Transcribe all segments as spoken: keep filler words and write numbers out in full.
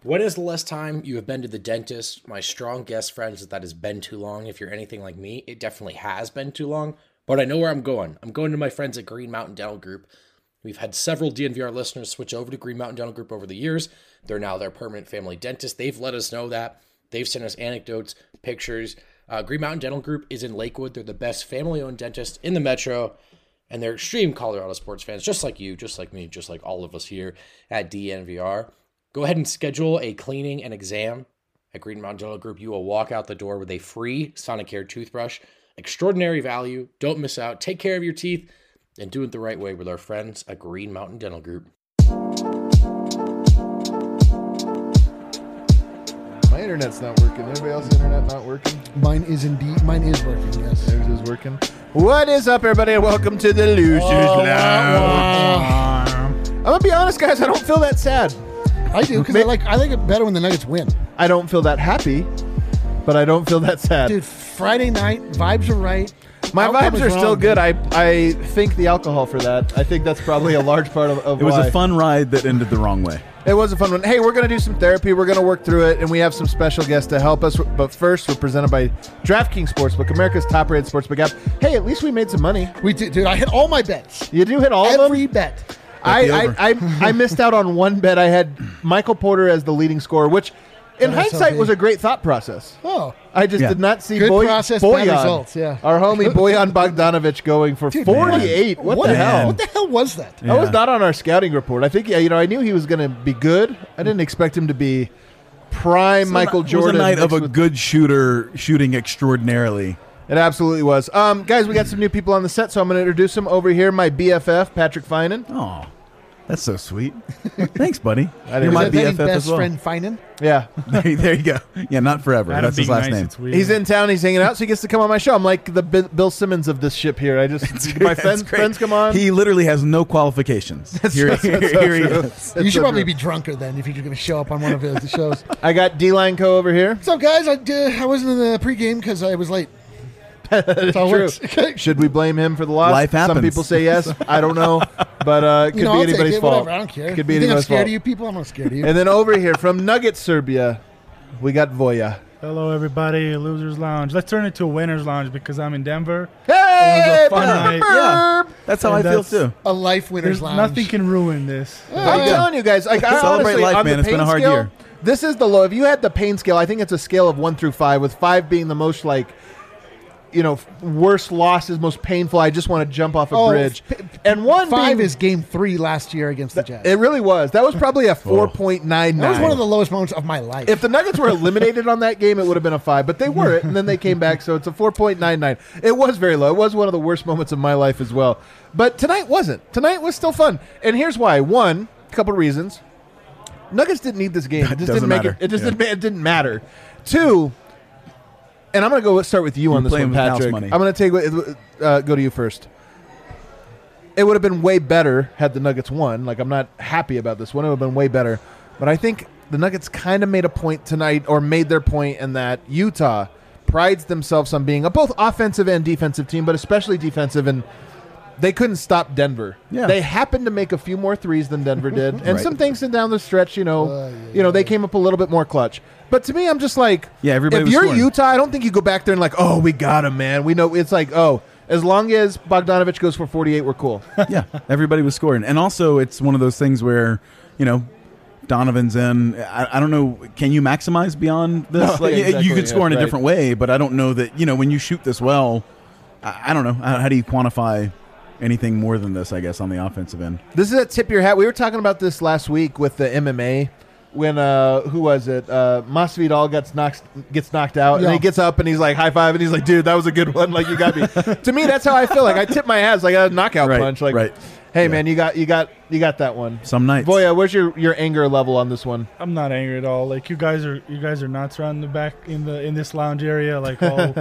When is the last time you have been to the dentist? My strong guess, friends, is that has been too long. If you're anything like me, it definitely has been too long. But I know where I'm going. I'm going to my friends at Green Mountain Dental Group. We've had several D N V R listeners switch over to Green Mountain Dental Group over the years. They're now their permanent family dentist. They've let us know that. They've sent us anecdotes, pictures. Uh, Green Mountain Dental Group is in Lakewood. They're the best family-owned dentist in the metro. And they're extreme Colorado sports fans, just like you, just like me, just like all of us here at D N V R. Go ahead and schedule a cleaning and exam at Green Mountain Dental Group. You will walk out the door with a free Sonicare toothbrush. Extraordinary value. Don't miss out. Take care of your teeth and do it the right way with our friends at Green Mountain Dental Group. My internet's not working. Anybody else's internet not working? Mine is indeed. Mine is working, yes. Theirs is working. What is up, everybody, and welcome to the Losers Oh, Lounge. I'm going to be honest, guys. I don't feel that sad. I do, because I like I like it better when the Nuggets win. I don't feel that happy, but I don't feel that sad. Dude, Friday night, vibes are right. My Outcome vibes is are still wrong. good. I I think the alcohol for that. I think that's probably a large part of, of It was why. a fun ride that ended the wrong way. It was a fun one. Hey, we're going to do some therapy. We're going to work through it, and we have some special guests to help us. But first, we're presented by DraftKings Sportsbook, America's top-rated sportsbook app. Hey, at least we made some money. We did, dude. I hit all my bets. You do hit all of them? Every bet. I, the I, over. I I missed out on one bet. I had Michael Porter as the leading scorer, which in Oh, that's hindsight okay. was a great thought process. Oh, I just Yeah. did not see Good Boy, process, bad Boyan, results, yeah. our homie Boyan Bogdanovic going for dude, forty-eight. What, what the man. hell? What the hell was that? Yeah. That was not on our scouting report. I think, yeah, you know, I knew he was going to be good. I didn't expect him to be prime Michael Jordan. It was a night of mixed a with- good shooter shooting extraordinarily. It absolutely was. Um, guys, we got some new people on the set, so I'm going to introduce them over here. My B F F, Patrick Finan. Oh, that's so sweet. Thanks, buddy. I You're didn't- my Is that B his F F best as well. friend Finan? Yeah. there, there you go. Yeah, not forever. Adam That's his being last nice, name. it's weird. He's in town. He's hanging out, so he gets to come on my show. I'm like the B- Bill Simmons of this ship here. I just my That's friends, great. friends come on. He literally has no qualifications. Here, That's so here, here he true. is. That's You should so probably true. be drunker then if you're going to show up on one of his shows. I got D-Line Co over here. What's up, guys? I, uh, I wasn't in the pregame because I was late. That's how it true. works. Okay. Should we blame him for the loss? Life Some happens. people say yes. I don't know, but uh, it could You know, be I'll take anybody's it, fault. whatever. I don't care. Could be you think I'm anybody's scared fault. of you people? I'm not scared of you. And then over here from Nugget Serbia, we got Voya. Hello, everybody. Losers Lounge. Let's turn it to a Winners Lounge because I'm in Denver. Hey, It was a fun night. Yeah, that's how And I feel that's- too. A life winner's There's lounge. nothing can ruin this. I'm Yeah. telling you guys, like I Celebrate honestly, life, on man. the It's been pain a hard scale, year. This is the low. If you had the pain scale, I think it's a scale of one through five, with five being the most like, you know, worst losses, most painful. I just want to jump off a Oh, bridge. p- And one Five being, is game three last year against the Jazz. it really was. That was probably a four point nine That was nine. one of the lowest moments of my life. If the Nuggets were eliminated on that game, it would have been a five, but they weren't, and then they came back, so it's a four point nine nine. It was very low. It was one of the worst moments of my life as well. But tonight wasn't. Tonight was still fun. And here's why. One, a couple reasons. Nuggets didn't need this game. It That just doesn't didn't make matter. it. It just Yeah. didn't, ma- it didn't matter. Two, and I'm going to go start with you on You're this playing one, with house Patrick. money. I'm going to take uh, go to you first. It would have been way better had the Nuggets won. Like, I'm not happy about this one. It would have been way better. But I think the Nuggets kind of made a point tonight, or made their point, in that Utah prides themselves on being a both offensive and defensive team, but especially defensive, and they couldn't stop Denver. Yeah. They happened to make a few more threes than Denver did, and Right. some things in down the stretch, you know, Uh, yeah, you know, they yeah. came up a little bit more clutch. But to me, I'm just like, Yeah, everybody if was you're scoring. Utah, I don't think you go back there and like, oh, we got him, man. We know it's like, oh, as long as Bogdanovich goes for forty-eight, we're cool. Yeah, everybody was scoring. And also, it's one of those things where, you know, Donovan's in. I, I don't know. Can you maximize beyond this? No, Like, yeah, you- exactly, you could score yeah, in a right. different way, but I don't know that, you know, when you shoot this well, I, I don't know. How, how do you quantify anything more than this, I guess, on the offensive end? This is a tip your hat. We were talking about this last week with the M M A when uh who was it? Uh Masvidal gets knocked gets knocked out Yeah. and he gets up and he's like high five and he's like, dude, that was a good one. Like, you got me. To me, that's how I feel. Like, I tip my hat. It's like a knockout Right, punch. Like, right. hey Yeah. man, you got you got you got that one. Some nights. Voya, where's your, your anger level on this one? I'm not angry at all. Like you guys are, you guys are nuts around the back in the in this lounge area. Like all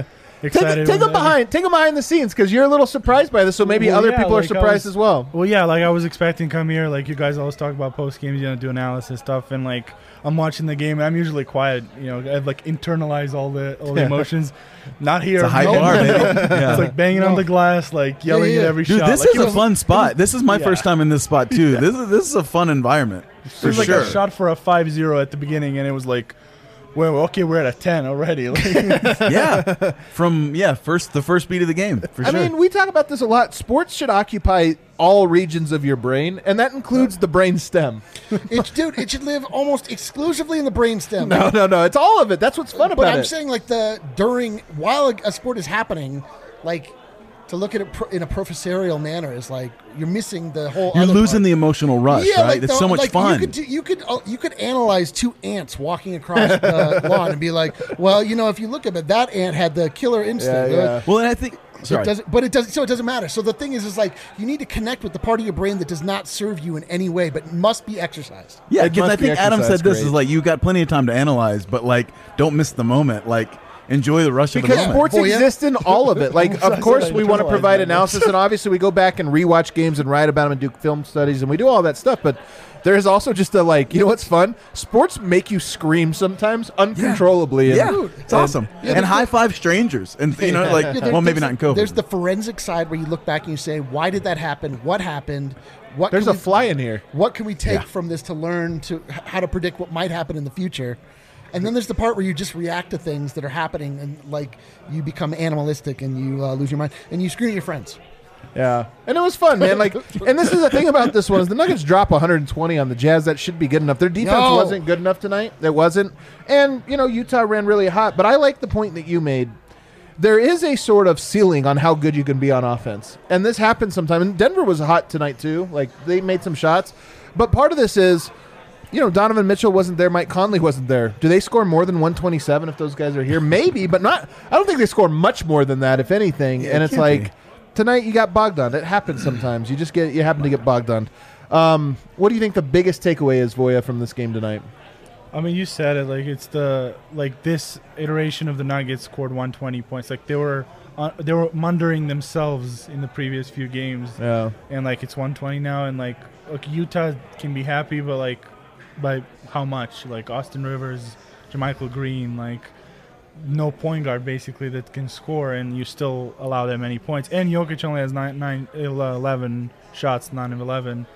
excited. Take, take them behind, take them behind the scenes because you're a little surprised by this. So maybe Well, other yeah, people are like, I surprised was- as well. Well, yeah, like I was expecting to come here, like you guys always talk about post games, you know, do analysis stuff, and like I'm watching the game, and I'm usually quiet, you know, I've like internalized all the all the emotions. Not here. It's a high no, bar, no. baby. Yeah. It's like banging on No. the glass, like yelling Yeah, yeah. at every Dude, shot. this like, is it a was- fun spot. This is my Yeah. first time in this spot too. This is this is a fun environment for It was like sure. a shot for a five zero at the beginning, and it was like, well, okay, we're at a ten already. Like, Yeah, from yeah first the first beat of the game for I sure. mean, we talk about this a lot. Sports should occupy all regions of your brain, and that includes the brain stem. It, dude, it should live almost exclusively in the brainstem. No, no, no. It's all of it. That's what's fun But about I'm it. saying, like, the during while a, a sport is happening, like, to look at it pro, in a professorial manner is like you're missing the whole. You're other losing part. the emotional rush, Yeah, right? like It's the- so much like fun. You could, do, you could uh, you could analyze two ants walking across the lawn and be like, well, you know, if you look at it, that ant had the killer instinct. Yeah, yeah. well, and I think It sorry. doesn't, but it doesn't. So it doesn't matter. So the thing is, is like you need to connect with the part of your brain that does not serve you in any way, but must be exercised. Yeah, It because must I be think Adam exercise said this grade. is like you got plenty of time to analyze, but like don't miss the moment. Like enjoy the rush of the Because moment. sports Boy, yeah. exist in all of it. Like, I of said course, I we want to internalized provide that. analysis, and obviously, we go back and rewatch games and write about them and do film studies, and we do all that stuff. But there is also just a like, you know what's fun? Sports make you scream sometimes uncontrollably. and- yeah, Dude. it's awesome. Yeah, and the- high five strangers, and you know, like Yeah, there- well, maybe there's not in the- COVID. There's the forensic side where you look back and you say, why did that happen? What happened? What There's can a we- fly in here. What can we take Yeah. from this to learn to h- how to predict what might happen in the future? And then there's the part where you just react to things that are happening, and like you become animalistic and you uh, lose your mind and you scream at your friends. Yeah, and it was fun, man. Like, and this is the thing about this one is the Nuggets drop one hundred twenty on the Jazz. That should be good enough. Their defense No. wasn't good enough tonight. It wasn't, and you know Utah ran really hot. But I like the point that you made. There is a sort of ceiling on how good you can be on offense, and this happens sometimes. And Denver was hot tonight too. Like they made some shots, but part of this is, you know, Donovan Mitchell wasn't there. Mike Conley wasn't there. Do they score more than one twenty-seven if those guys are here? Maybe, but not. I don't think they score much more than that, if anything. Yeah, and it it's can't like. be. Tonight you got bogged on. It happens sometimes. You just get you happen to get bogged on. Um, what do you think the biggest takeaway is, Voya, from this game tonight? I mean, you said it. Like it's the like this iteration of the Nuggets scored one hundred twenty points. Like they were uh, they were mundering themselves in the previous few games, Yeah, and like it's one hundred twenty now. And like, look, Utah can be happy, but like, by how much? Like Austin Rivers, JaMychal Green, like no point guard basically that can score, and you still allow that many points. And Jokic only has nine, nine, eleven shots, nine of eleven.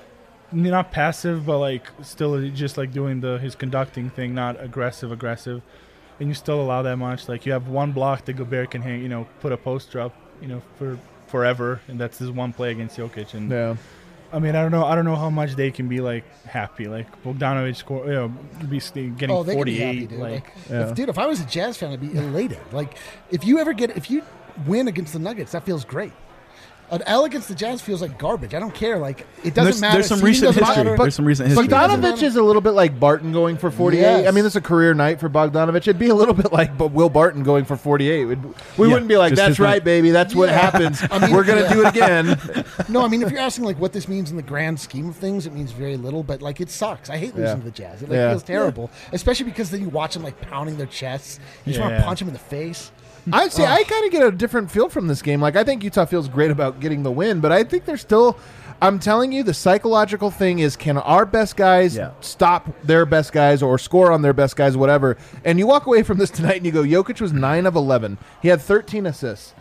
Not passive, but like still just like doing the his conducting thing, not aggressive, aggressive. And you still allow that much. Like you have one block that Gobert can hang, you know, put a poster up, you know, for forever, and that's his one play against Jokic. And yeah. I mean, I don't know, I don't know how much they can be like happy. Like Bogdanovic score, you know, be getting Oh, they can be forty-eight. happy, dude. like, Like, Yeah. if, dude, if I was a Jazz fan, I'd be elated. Like, if you ever get, if you win against the Nuggets, that feels great. An L against the Jazz feels like garbage. I don't care. Like, it doesn't there's, matter. there's some Seeding recent doesn't history. matter. There's some recent history. Bogdanovich is a little bit like Barton going for forty-eight. Yes. I mean, it's a career night for Bogdanovich. It'd be a little bit like but Will Barton going for forty-eight. We'd, we Yeah, wouldn't be like, just that's his right, night. baby. That's what Yeah. happens. I mean, We're going to yeah. do it again. No, I mean, if you're asking like what this means in the grand scheme of things, it means very little. But like, it sucks. I hate losing Yeah. to the Jazz. It like Yeah. feels terrible, especially because then you watch them like pounding their chests. You just want to Yeah. punch them in the face. I see. I kind of get a different feel from this game. Like, I think Utah feels great about getting the win, but I think there's still. I'm telling you, the psychological thing is, can our best guys Yeah. stop their best guys or score on their best guys, whatever? And you walk away from this tonight and you go, Jokic was nine of eleven. He had thirteen assists.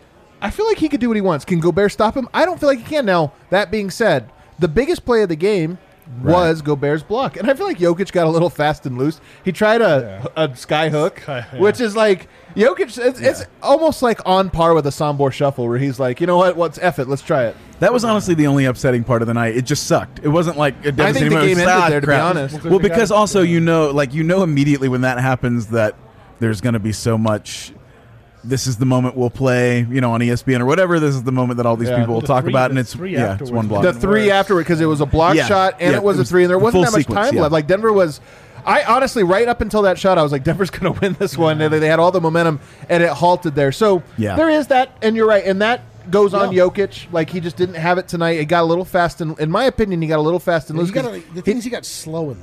I feel like he could do what he wants. Can Gobert stop him? I don't feel like he can. Now, that being said, the biggest play of the game was Gobert's block. And I feel like Jokic got a little fast and loose. He tried a, a sky hook, Sky- yeah. which is like, Jokic, it's, it's almost like on par with a Sombor shuffle where he's like, you know what, what's F it, let's try it. That was honestly the only upsetting part of the night. It just sucked. It wasn't like it I think the game ended Ah, there, to be crap. honest. Well, because also you know, like you know immediately when that happens that there's going to be so much. This is the moment we'll play, you know, on E S P N or whatever. This is the moment that all these Yeah. people will The talk three- about, and the it's three yeah, it's one afterwards. block. The Even three worse. afterward, because it was a block Yeah. shot and Yeah, it was it a was three, and there the wasn't full that much sequence, time yeah. left. Like Denver was, I honestly, right up until that shot, I was like, Denver's going to win this one. And they had all the momentum, and it halted there. So Yeah. there is that, and you're right, and that goes on Yeah. Jokic. Like he just didn't have it tonight. It got a little fast, and in my opinion, he got a little fast and loose. You gotta, 'cause the thing is, he got slow in those.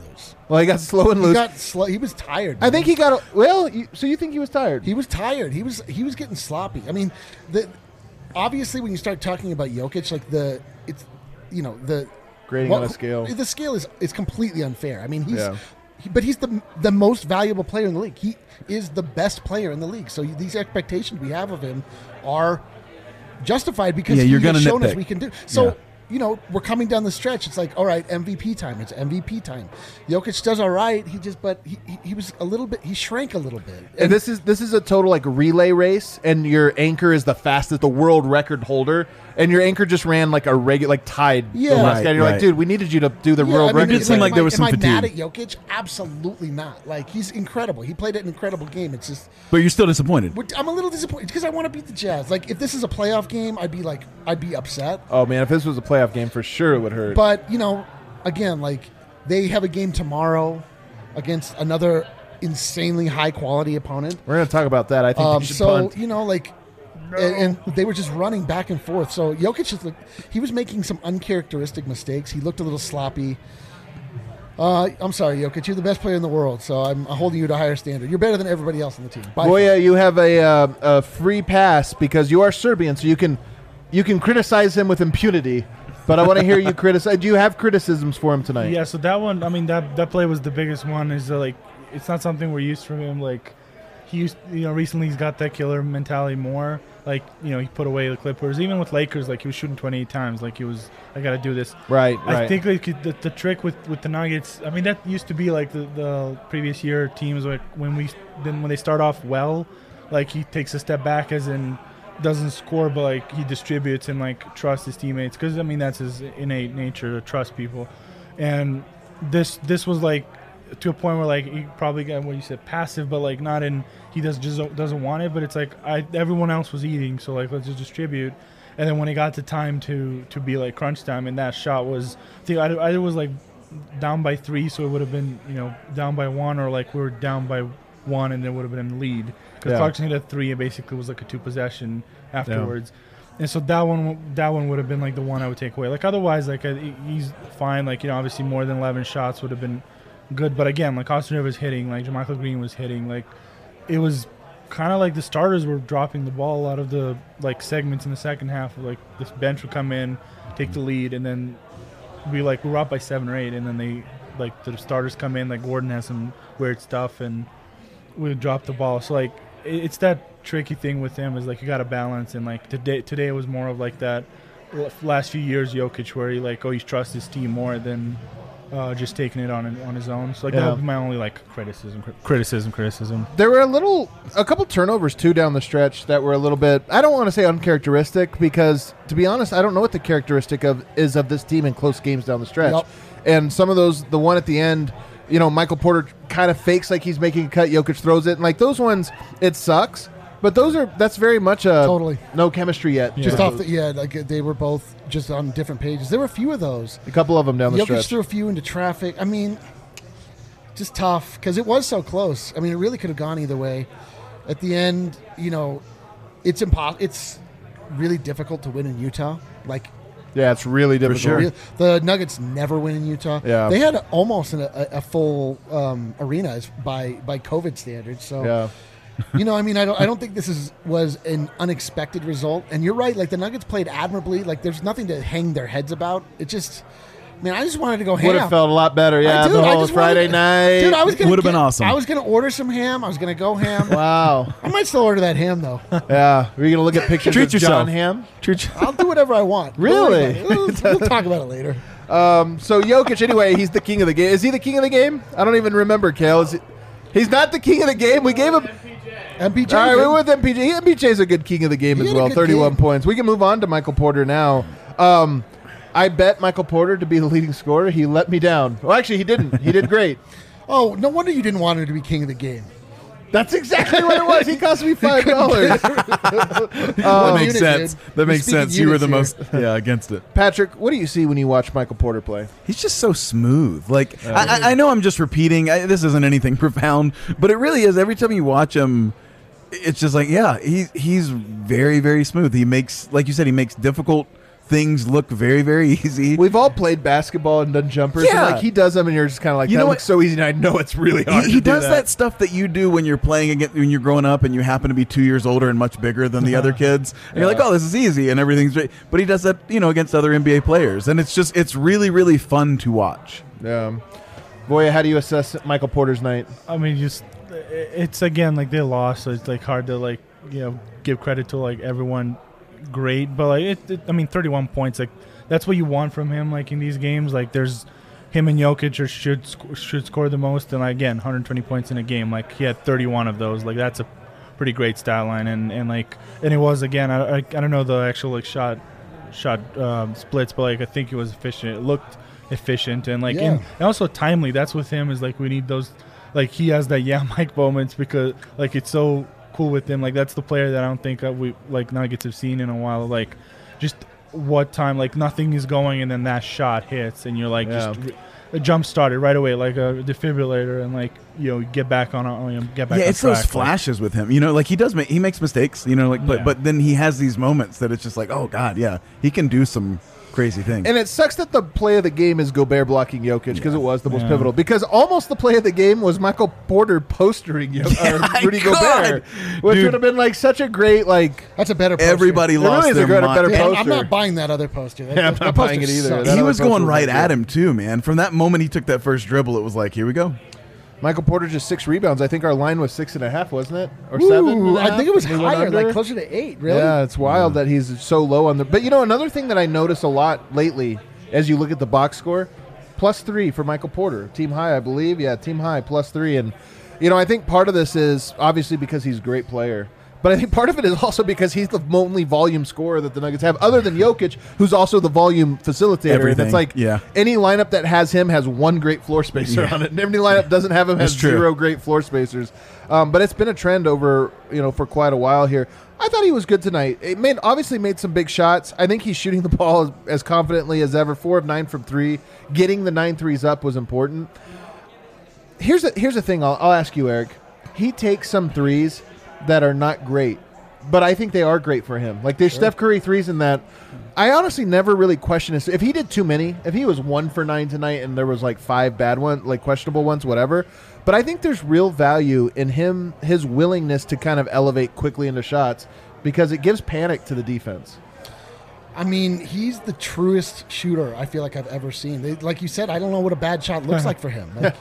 Well, he got slow and He loose. got sl- He was tired. I man. think he got. A, well, you, so you think he was tired? He was tired. He was he was getting sloppy. I mean, the obviously when you start talking about Jokic, like the it's you know the Grading on a scale. The scale is is completely unfair. I mean, he's Yeah. he, but he's the the most valuable player in the league. He is the best player in the league. So these expectations we have of him are justified because Yeah, you're he has gonna shown us nitpick. we can do. So. Yeah. You know, we're coming down the stretch. It's like, all right, M V P time. It's M V P time. Jokic does all right. He just, but he, he, he was a little bit. He shrank a little bit. And this is this is a total like relay race, and your anchor is the fastest, the world record holder, and your anchor just ran like a regular, like tied. Yeah. the last Right, guy. And you're right. like, dude, we needed you to do the Yeah, world I mean, record. did seem am like I- there was some am I mad at fatigue. Jokic? Absolutely not. Like he's incredible. He played an incredible game. It's just But you're still disappointed. we're- I'm a little disappointed because I want to beat the Jazz. Like if this is a playoff game, I'd be like I'd be upset. Oh man, if this was a playoff game, for sure it would hurt. But you know, again, like they have a game tomorrow against another insanely high quality opponent. We're gonna talk about that. I think Um, they should so punt. you know, like, and, and they were just running back and forth. So Jokic is like, he was making some uncharacteristic mistakes. He looked a little sloppy. Uh, I'm sorry, Jokic. You're the best player in the world, so I'm holding you to a higher standard. You're better than everybody else on the team. By far. Boya, you have a, uh, a free pass because you are Serbian, so you can you can criticize him with impunity. But I want to hear you criticize. Do you have criticisms for him tonight? Yeah, so that one, I mean, that that play was the biggest one. Is uh, like, it's not something we're used from him. Like, he used, you know, recently he's got that killer mentality more. Like, you know, he put away the Clippers. Even with Lakers, like he was shooting twenty-eight times. Like he was, I got to do this. Right, right. I think like the, the trick with, with the Nuggets. I mean, that used to be like the, the previous year teams like when we then when they start off well, like he takes a step back as in doesn't score, but like he distributes and like trusts his teammates because I mean that's his innate nature to trust people. And this this was like to a point where like he probably got what you said passive, but like not in he does just doesn't want it, but it's like I everyone else was eating, so like let's just distribute. And then when it got to time to to be like crunch time, and that shot was I think I, I was like down by three, so it would have been you know down by one, or like we were down by one and it would have been in the lead because Yeah. Clarkson hit a three and basically was like a two possession afterwards. And so that one that one would have been like the one I would take away. Like otherwise, like I, he's fine. Like you know, obviously more than eleven shots would have been good. But again, like Austin Rivers hitting, like JaMychal Green was hitting, like it was kind of like the starters were dropping the ball a lot of the like segments in the second half. Like this bench would come in, take the lead, and then we like we were up by seven or eight, and then they like the starters come in. Like Gordon has some weird stuff, and we would drop the ball. So like it, it's that tricky thing with him is like you got to balance, and like today today it was more of like that last few years Jokic where he like oh he trusts his team more than uh, just taking it on on his own. So like Yeah. that would be my only like criticism, cri- criticism, criticism. There were a little, a couple turnovers too down the stretch that were a little bit. I don't want to say uncharacteristic because, to be honest, I don't know what the characteristic of is of this team in close games down the stretch. Yep. And some of those, the one at the end, you know, Michael Porter kind of fakes like he's making a cut. Jokic throws it, and like those ones, it sucks. But those are that's very much a Totally. no chemistry yet. Just Yeah. off the yeah, like they were both just on different pages. There were a few of those. a couple of them down the Jokic stretch. threw a few into traffic. I mean, just tough because it was so close. I mean, it really could have gone either way. At the end, you know, it's impossible. It's really difficult to win in Utah. Like Yeah, it's really difficult. sure. real- the Nuggets never win in Utah. Yeah. They had almost an, a, a full um, arena as- by by COVID standards. So. Yeah. You know, I mean, I don't, I don't think this is was an unexpected result. And you're right, like the Nuggets played admirably. Like there's nothing to hang their heads about. It just, man, I just wanted to go ham. Would have felt a lot better. Yeah, I do, the I whole just Friday wanted- night. Dude, I was gonna Would've been get- awesome. I was gonna order some ham. I was gonna go ham. Wow. I might still order that ham though. Yeah. Were you gonna look at pictures Treat of yourself. John Hamm? Treat I'll do whatever I want. Don't worry Really? about it. We'll, we'll talk about it later. Um, so Jokic, anyway, he's the king of the game. Is he the king of the game? I don't even remember, Kale. Is he, he's not the king of the game. We gave him. M P J. All right, did. we're with M P J. M P J's a good king of the game He as had a well. good thirty-one game. points. We can move on to Michael Porter now. Um, I bet Michael Porter to be the leading scorer. He let me down. Well, actually, he didn't. He did great. Oh, no wonder you didn't want him to be king of the game. That's exactly what it was. He cost me five dollars. that One makes unit, sense. dude. That We're makes speaking sense. You were the units most yeah against it. Patrick, what do you see when you watch Michael Porter play? He's just so smooth. Like I, I- I know I'm just repeating. I, this isn't anything profound, but it really is. Every time you watch him, it's just like yeah, he he's very very smooth. He makes like you said, he makes difficult things look very, very easy. We've all played basketball and done jumpers. Yeah. And like he does them, and you're just kind of like, You that know looks what? so easy, and I know it's really hard. He, to he do does that. stuff that you do when you're playing against, when you're growing up and you happen to be two years older and much bigger than the other kids. And you're like, oh, this is easy and everything's great. But he does that, you know, against other N B A players. And it's just, it's really, really fun to watch. Yeah. Boy, how do you assess Michael Porter's night? I mean, just it's again like they lost, so it's like hard to like you know give credit to like everyone great, but like it, it I mean, thirty-one points, like that's what you want from him. Like in these games, like there's him and Jokic or should sc- should score the most, and like, again, one hundred twenty points in a game. Like he had thirty-one of those. Like that's a pretty great stat line, and and like and it was again. I I, I don't know the actual like shot shot um, splits, but like I think it was efficient. It looked efficient and like Yeah. and, and also timely. That's with him is like we need those. Like he has that yeah Mike moments because like it's so cool with him. Like that's the player that I don't think that we like Nuggets have seen in a while. Like just what time like nothing is going and then that shot hits and you're like Yeah. just a jump started right away like a defibrillator and like you know get back on, on you know, get back. Yeah, on it's track. those flashes with him. You know, like he does make he makes mistakes. You know, like but Yeah. but then he has these moments that it's just like, oh god, yeah, he can do some crazy things. And it sucks that the play of the game is Gobert blocking Jokic because it was the most Yeah. pivotal. Because almost the play of the game was Michael Porter postering Yo- Yeah, or Rudy God. Gobert, which Dude. would have been like such a great like. That's a better poster. Everybody It lost really is a their good- a mind. better Yeah, I'm poster. not buying that other poster. That, Yeah, I'm that not poster buying it either. sucks. That He other was poster going was right like at good. him too, man. From that moment he took that first dribble, it was like, here we go. Michael Porter just six rebounds. I think our line was six and a half, wasn't it, or Ooh, seven? and a I half? think it was We went higher, under? like closer to eight. Really? Yeah, it's wild that he's so low on the. But you know, another thing that I notice a lot lately, as you look at the box score, plus three for Michael Porter, team high, I believe. Yeah, team high, plus three, and you know, I think part of this is obviously because he's a great player, but I think part of it is also because he's the only volume scorer that the Nuggets have, other than Jokic, who's also the volume facilitator. And Everything, it's like yeah. any lineup that has him has one great floor spacer Yeah. on it, and any lineup doesn't have him has That's true. zero great floor spacers. Um, but it's been a trend over you know for quite a while here. I thought he was good tonight. It made obviously made some big shots. I think he's shooting the ball as, as confidently as ever. Four of nine from three. Getting the nine threes up was important. Here's a, here's the thing. I'll, I'll ask you, Eric. He takes some threes that are not great, but I think they are great for him. Like there's Steph Curry threes in that. I honestly never really question this. If he did too many, if he was one for nine tonight and there was like five bad ones, like questionable ones, whatever. But I think there's real value in him, his willingness to kind of elevate quickly into shots because it gives panic to the defense. I mean, he's the truest shooter I feel like I've ever seen. They, like you said, I don't know what a bad shot looks like for him. Like,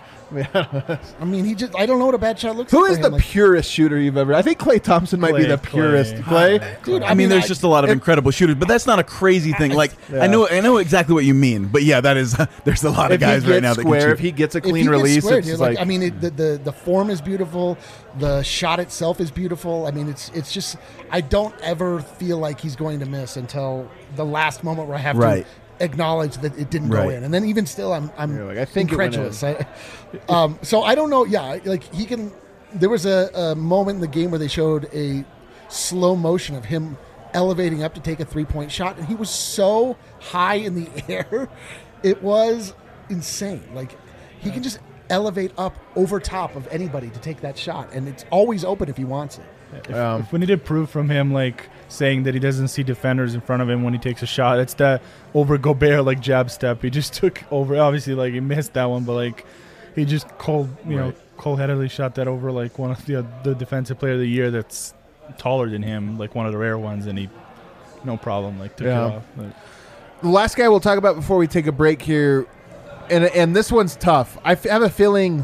I mean, he just—I don't know what a bad shot looks Who like. is for the him. Like, purest shooter you've ever? I think Klay Thompson might be Klay, the purest. Klay. Klay, dude? I mean, there's I- just a lot of it- incredible shooters, but that's not a crazy thing. Like Yeah. I know, I know exactly what you mean. But yeah, that is. There's a lot of if he guys gets right now that square, can if shoot. he gets a if clean he gets release, squared, it's dude, like, like, I mean, it, the, the the form is beautiful. The shot itself is beautiful. I mean, it's it's just I don't ever feel like he's going to miss until the last moment where I have Right. to acknowledge that it didn't go Right. in, and then even still, I'm I'm You're like, I think it went incredulous. I, um, so I don't know. Yeah, like he can. There was a, a moment in the game where they showed a slow motion of him elevating up to take a three point shot, and he was so high in the air, it was insane. Like he can just elevate up over top of anybody to take that shot, and it's always open if he wants it. If, Um, if we needed proof from him, like saying that he doesn't see defenders in front of him when he takes a shot, it's that over Gobert like jab step. He just took over. Obviously, like he missed that one, but like he just cold, you know, Right. cold-headedly shot that over like one of the the defensive player of the year that's taller than him, like one of the rare ones, and he no problem like took Yeah. it off. Like, the last guy we'll talk about before we take a break here, and and this one's tough. I f- have a feeling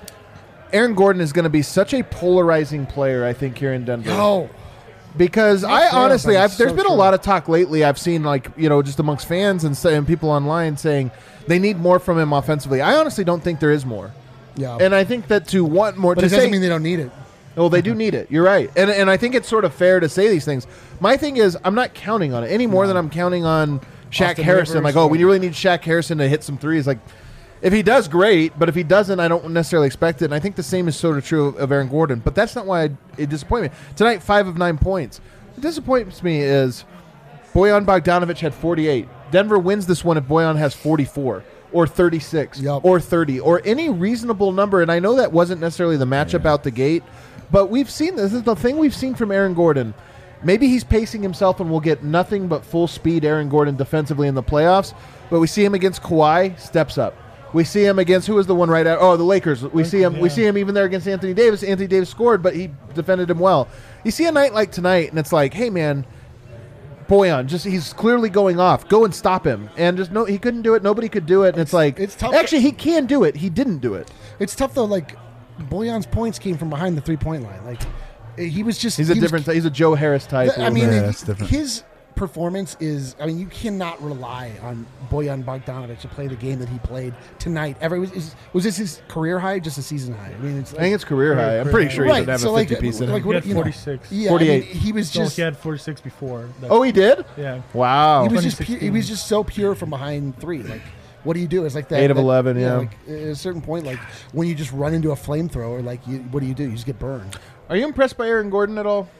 Aaron Gordon is going to be such a polarizing player, I think, here in Denver. Oh, Because Not I fair, honestly, but I've, it's there's so been a true. lot of talk lately. I've seen like you know just amongst fans and, say, and people online saying they need more from him offensively. I honestly don't think there is more, yeah. and I think that to want more, but to it doesn't say, mean they don't need it. well, they do need it. You're right, and and I think it's sort of fair to say these things. My thing is, I'm not counting on it any more than I'm counting on Shaq Austin Harrison. Rivers, Like, oh, we yeah. really need Shaq Harrison to hit some threes. Like, if he does, great. But if he doesn't, I don't necessarily expect it. And I think the same is sort of true of, of Aaron Gordon. But that's not why I, it disappointed me tonight. Five of nine points. What disappoints me is Bojan Bogdanovic had forty-eight. Denver wins this one if Bojan has forty-four or thirty-six Yup. or thirty or any reasonable number. And I know that wasn't necessarily the matchup out the gate, but we've seen this. This is the thing we've seen from Aaron Gordon. maybe he's pacing himself and we'll get nothing but full speed Aaron Gordon defensively in the playoffs. But we see him against Kawhi, steps up. We see him against who was the one right out? Oh, the Lakers. We see him. yeah. We see him even there against Anthony Davis. Anthony Davis scored, but he defended him well. You see a night like tonight, and it's like, hey man, Bojan, just he's clearly going off. Go and stop him. And just no, he couldn't do it. Nobody could do it. And it's, It's- like, it's tough. Actually, he can do it. He didn't do it. It's tough though. Like Bojan's points came from behind the three point line. Like he was just He's a he was- different. He's a Joe Harris type. a I little mean, bit. Yeah, that's different. his performance is. I mean, you cannot rely on Bojan Bogdanovic to play the game that he played tonight. Ever was, is, was this his career high, or just a season high? I mean, it's. I think it's career high. I'm pretty sure he right. doesn't have so a like, fifty piece in like him. what, He had you know, forty-six. Yeah, forty-eight. I mean, he was So just. he had forty-six before. That- Oh, he did? yeah. Wow. He was just. Pure, he twenty sixteen. was just so pure from behind three. Like, what do you do? It's like that. Eight of that- eleven, yeah. Like at a certain point, like when you just run into a flamethrower, like you, what do you do? You just get burned. Are you impressed by Aaron Gordon at all?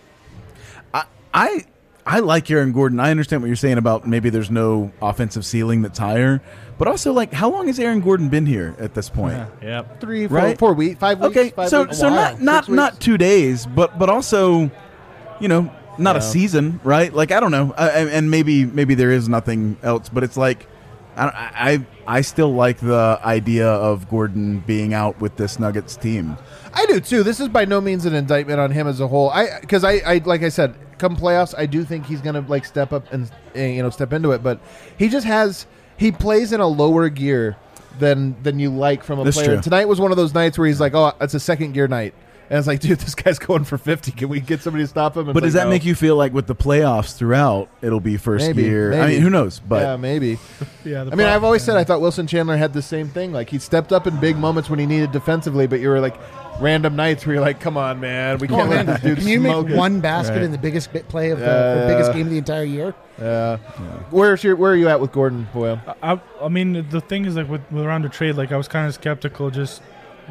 I, I I like Aaron Gordon. I understand what you're saying about maybe there's no offensive ceiling that's higher, but also like how long has Aaron Gordon been here at this point? Yeah. Yep. Three, four, Right? four weeks, five weeks. Okay, five so weeks? so while. not not Six not weeks? two days, but but also, you know, not a Yeah. season, right? Like I don't know, I, I- and maybe maybe there is nothing else, but it's like. I, I I still like the idea of Gordon being out with this Nuggets team. I do too. This is by no means an indictment on him as a whole. I because I, I like I said, come playoffs, I do think he's gonna like step up and uh, you know step into it. But he just has he plays in a lower gear than than you like from a That's player. true. And tonight was one of those nights where he's like, oh, it's a second gear night, and it's like, dude, this guy's going for fifty. Can we get somebody to stop him? And But it's does like, that no. make you feel like with the playoffs throughout, it'll be first Maybe, year? I maybe. mean, who knows? But yeah, maybe. Yeah. the I mean, I've pro- always yeah. said I thought Wilson Chandler had the same thing. Like he stepped up in big moments when he needed defensively, but you were like random nights where you're like, come on, man, we Come can't on, let man. this dude Can you smoke make it. one basket Right. in the biggest bit play of the, Yeah, the biggest yeah. game of the entire year? Yeah. Where's your Where are you at with Gordon Boyle? I, I mean, the thing is, like, with, with around the trade, like, I was kind of skeptical. Just,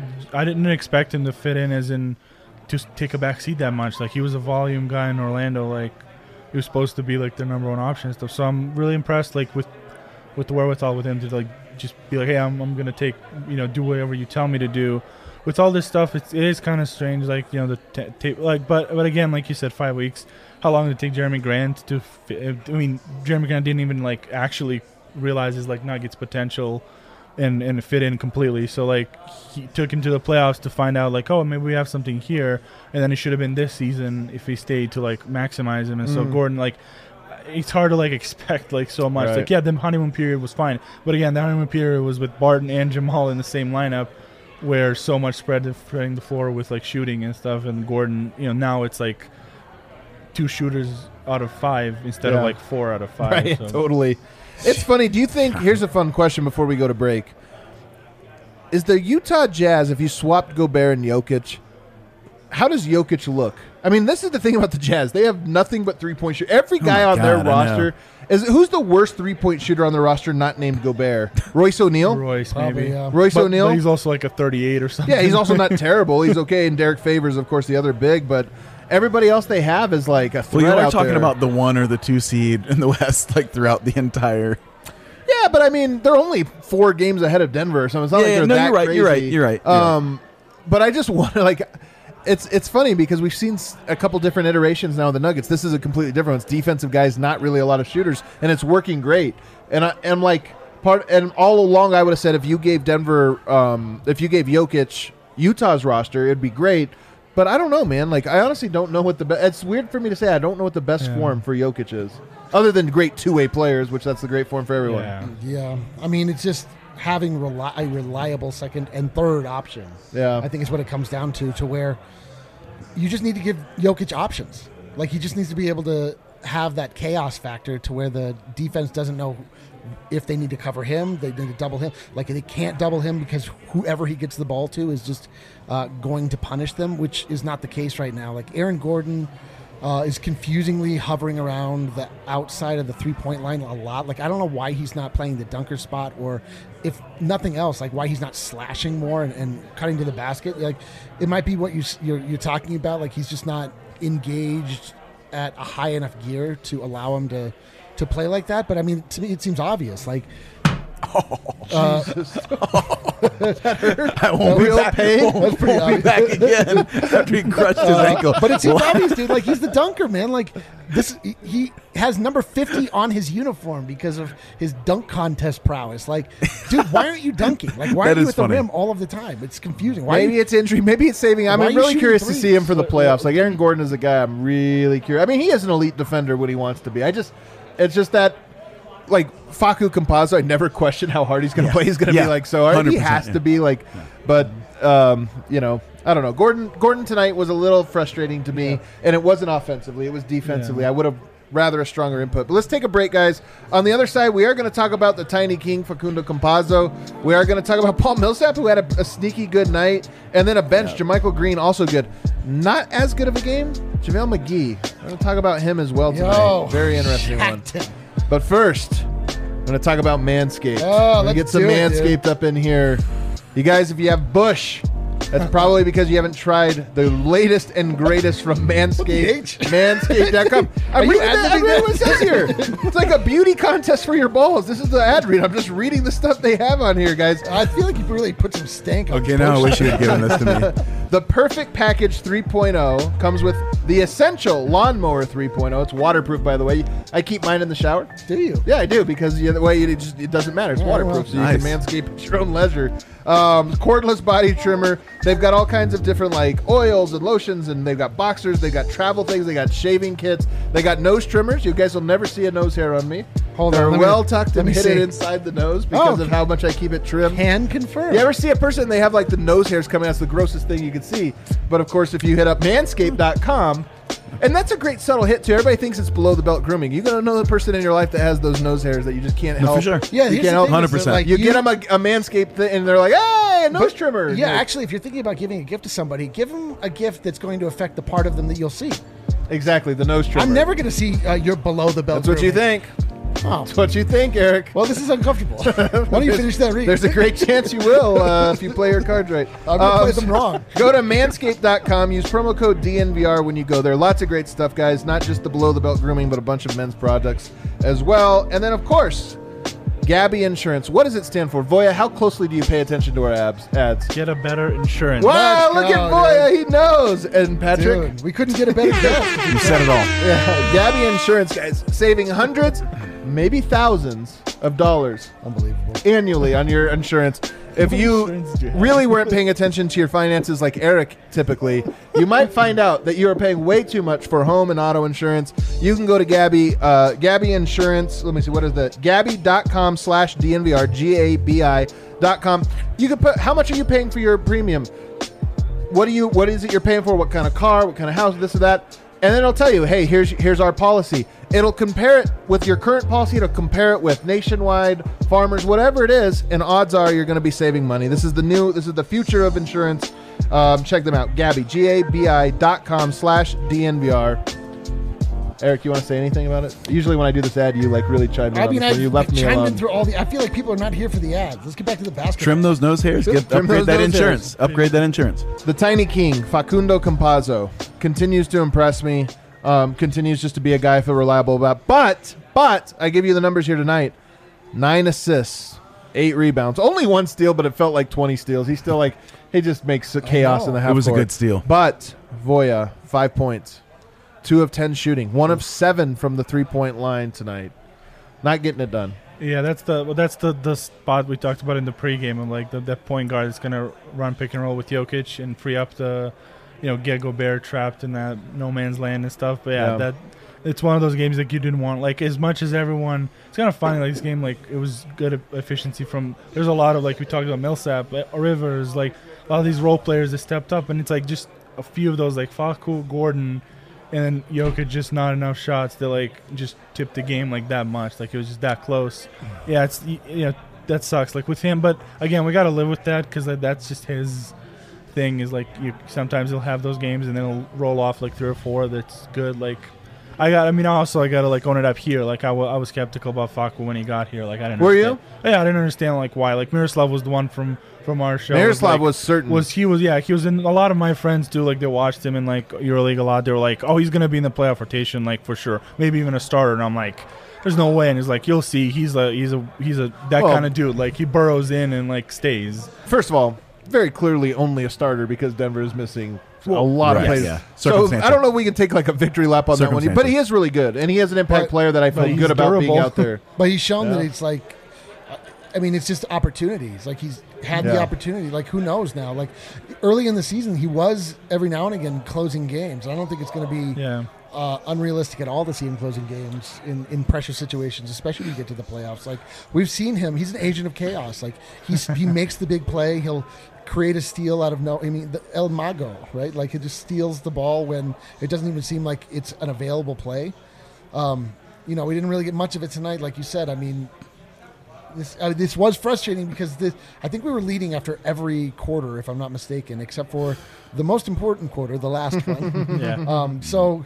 I didn't expect him to fit in as in to take a back seat that much. Like, he was a volume guy in Orlando. Like, he was supposed to be, like, their number one option and stuff. So I'm really impressed, like, with with the wherewithal with him to, like, just be like, hey, I'm, I'm going to take, you know, do whatever you tell me to do. With all this stuff, it's, it is kind of strange, like, you know, the t- tape, like, but, but again, like you said, five weeks. How long did it take Jeremy Grant to? Fi- I mean, Jeremy Grant didn't even like actually realize his like Nuggets potential, and and fit in completely. So like he took him to the playoffs to find out like, oh, maybe we have something here, and then it should have been this season if he stayed to like maximize him. And so Mm. Gordon, like, it's hard to like expect like so much. Right. Like yeah, the honeymoon period was fine, but again, the honeymoon period was with Barton and Jamal in the same lineup, where so much spread spreading the floor with like shooting and stuff. And Gordon, you know, now it's like two shooters out of five instead Yeah. of like four out of five. Right, so. totally. It's funny. Do you think? Here's a fun question before we go to break. Is the Utah Jazz, if you swapped Gobert and Jokic, how does Jokic look? I mean, this is the thing about the Jazz. They have nothing but three point shoot. Every guy my on their God, I know. roster is who's the worst three point shooter on the roster not named Gobert? Royce O'Neal. Royce Probably, maybe. yeah. Royce But- O'Neal. but he's also like a thirty-eight or something. Yeah, he's also not terrible. He's okay. And Derek Favors, of course, the other big. But everybody else they have is like a threat well, you are out talking there. about the one or the two seed in the West, like throughout the entire. Yeah, but I mean, they're only four games ahead of Denver or something. It's not Yeah, like yeah, they're no, that you're right, crazy. you're right, you're right, you're right. Um, but I just want to like, it's it's funny because we've seen s- a couple different iterations now of the Nuggets. This is a completely different one. It's defensive guys, not really a lot of shooters, and it's working great. And I am like part, and all along I would have said if you gave Denver, um, if you gave Jokic Utah's roster, it'd be great. But I don't know, man. Like I honestly don't know what the. Be- it's weird for me to say. I don't know what the best Yeah. form for Jokic is, other than great two-way players, which that's the great form for everyone. Yeah. Yeah, I mean, it's just having reli- a reliable second and third option. Yeah. I think is what it comes down to, to where you just need to give Jokic options. Like he just needs to be able to have that chaos factor to where the defense doesn't know if they need to cover him, they need to double him. Like they can't double him because whoever he gets the ball to is just uh, going to punish them, which is not the case right now. Like Aaron Gordon uh, is confusingly hovering around the outside of the three-point line a lot. Like I don't know why he's not playing the dunker spot, or if nothing else, like why he's not slashing more and, and cutting to the basket. Like it might be what you, you're, you're talking about. Like he's just not engaged at a high enough gear to allow him to to play like that. But I mean, to me, it seems obvious. Like, uh, I won't be real back. pain? Won't, That's pretty won't be back again after he crushed his ankle. But it's seems obvious, dude. Like he's the dunker, man. Like this, he- he has number fifty on his uniform because of his dunk contest prowess. Like, dude, why aren't you dunking? Like, why That are you is at the funny. rim all of the time? It's confusing. Why? Maybe you, it's injury. Maybe it's saving. I'm Why are you really shooting curious to threes? see him for the playoffs. Like Aaron Gordon is a guy I'm really curious. I mean, he is an elite defender when he wants to be. I just, it's just that, like Facu Campazzo, I never question how hard he's going to Yeah. play. He's going to Yeah. be like so hard. He one hundred percent, has yeah. to be like, but um, you know, I don't know. Gordon, Gordon tonight was a little frustrating to me, and it wasn't offensively. It was defensively. I would have rather a stronger input. But let's take a break, guys. On the other side, we are going to talk about the Tiny King, Facundo Campazzo. We are going to talk about Paul Millsap, who had a, a sneaky good night, and then a bench, JaMychal Green, also good. Not as good of a game, JaVale McGee. We're going to talk about him as well tonight. Yo, Very interesting one. shacked him. But first, I'm going to talk about Manscaped. Oh, We're gonna let's get some do it, dude. Manscaped up in here. You guys, if you have Bush, that's probably because you haven't tried the latest and greatest from Manscaped. Manscaped dot com. Are I'm you reading, the, I'm ad-libbing reading what it that? says here. It's like a beauty contest for your balls. This is the ad read. I'm just reading the stuff they have on here, guys. I feel like you really put some stank on Okay, Bush. now I wish you had given this to me. The Perfect Package three point oh comes with the Essential Lawnmower three point oh. It's waterproof, by the way. I keep mine in the shower. Do you? Yeah, I do, because you, the way it just it doesn't matter. It's Yeah, waterproof, well, so you nice. can manscape at your own leisure. Um, cordless body trimmer. They've got all kinds of different like oils and lotions, and they've got boxers. They've got travel things. They got shaving kits. They got nose trimmers. You guys will never see a nose hair on me. Hold They're on, let me- well tucked let and me hidden see. inside the nose because Oh, of how much I keep it trimmed. Can confirm. You ever see a person, they have like the nose hairs coming out? It's the grossest thing you could see. But of course, if you hit up manscaped dot com, and that's a great subtle hit too. Everybody thinks it's below the belt grooming. You got another person in your life that has those nose hairs that you just can't No, help. for sure. Yeah, you here's can't the help. thing one hundred is that, percent. like, You, get them a, a Manscaped thing, and they're like, "Hey, a nose trimmer." Yeah, Like, actually, if you're thinking about giving a gift to somebody, give them a gift that's going to affect the part of them that you'll see. exactly the nose trimmer. I'm never going to see uh, your below the belt. That's what you grooming. think. Oh, That's what you think, Eric. well, this is uncomfortable. Why don't you finish that read? There's a great chance you will uh, if you play your cards right. I'm gonna play Um, them wrong. Go to manscaped dot com. Use promo code D N V R when you go there. Lots of great stuff, guys. Not just the below the belt grooming, but a bunch of men's products as well. And then, of course, Gabby Insurance. What does it stand for? Voya, how closely do you pay attention to our abs, ads? Get a better insurance. Wow, Let's look go, at Voya. He knows. And Patrick? Dude, we couldn't get a better guest. You said it all. Yeah, Gabby Insurance, guys. Saving hundreds, maybe thousands of dollars Unbelievable. annually on your insurance. If you insurance do you have? really weren't paying attention to your finances like Eric typically, you might find out that you are paying way too much for home and auto insurance. You can go to Gabby, uh, Gabby Insurance. Let me see, what is that? Gabby dot com slash D N V R, G A B I dot com. You can put, how much are you paying for your premium? What do you, what is it you're paying for? What kind of car? What kind of house? This or that? And then it'll tell you, hey, here's here's our policy. It'll compare it with your current policy. It'll compare it with Nationwide, Farmers, whatever it is, and odds are you're going to be saving money. This is the new, this is the future of insurance. Um, check them out. Gabby, G A B I dot com slash D N V R. Eric, you want to say anything about it? Usually when I do this ad, you like really chime in I on mean, this I one. You left me chimed alone. in through all the. I feel like people are not here for the ads. Let's get back to the basketball. Trim those nose hairs. Get, Trim upgrade those that nose insurance. hairs. Upgrade that insurance. The Tiny King, Facundo Campazzo, continues to impress me. Um, continues just to be a guy I feel reliable about. But, but, I give you the numbers here tonight. Nine assists, eight rebounds. Only one steal, but it felt like twenty steals. He's still like, he just makes chaos know. in the half It was a court. good steal. But, Voya, five points. Two of ten shooting. One of seven from the three-point line tonight. Not getting it done. Yeah, that's the well, that's the, the spot we talked about in the pregame of like the that point guard is gonna run pick and roll with Jokic and free up the, you know, get Gobert trapped in that no man's land and stuff. But yeah, Yeah. that it's one of those games that you didn't want. Like as much as everyone, it's kind of funny. Like this game, like it was good e- efficiency from. There's a lot of like we talked about Millsap, uh, Rivers, like a lot of these role players that stepped up, and it's like just a few of those like Facu, Gordon. And then Jokic just not enough shots to like just tip the game like that much. Like it was just that close. Yeah, it's y- you know that sucks. Like with him, but again, we got to live with that because like, that's just his thing. Is like you sometimes he'll have those games and then he'll roll off like three or four. That's good. Like I got. I mean, also I got to like own it up here. Like I, w- I was skeptical about Facu when he got here. Like I didn't. Were you? understand- Yeah, I didn't understand like why. Like Miroslav was the one from from our show. Miroslav like, was certain. was he was yeah he was in a lot of my friends too, like they watched him in like EuroLeague a lot. They were like, oh, he's gonna be in the playoff rotation like for sure, maybe even a starter. And I'm like, there's no way. And it's like you'll see, he's a he's a he's a that Well- kind of dude. Like he burrows in and like stays. First of all, very clearly only a starter because Denver is missing a lot of right, players. yeah. So Circumstantial. I don't know if we can take like a victory lap on that one, but he is really good, and he is an impact But- player that I feel but he's good about being durable. out there. But he's shown that Yeah. it's like, I mean, it's just opportunities. Like he's had the Yeah. opportunity. Like who knows now? Like early in the season, he was every now and again closing games. I don't think it's going to be Yeah. uh, unrealistic at all to see him closing games in, in pressure situations, especially when you get to the playoffs. Like we've seen him; he's an agent of chaos. Like he's he makes the big play. He'll create a steal out of no. I mean, the El Mago, right? Like he just steals the ball when it doesn't even seem like it's an available play. Um, you know, we didn't really get much of it tonight, like you said. I mean, this uh, this was frustrating because this, I think we were leading after every quarter, if I'm not mistaken, except for the most important quarter, the last one. Yeah. Um, so,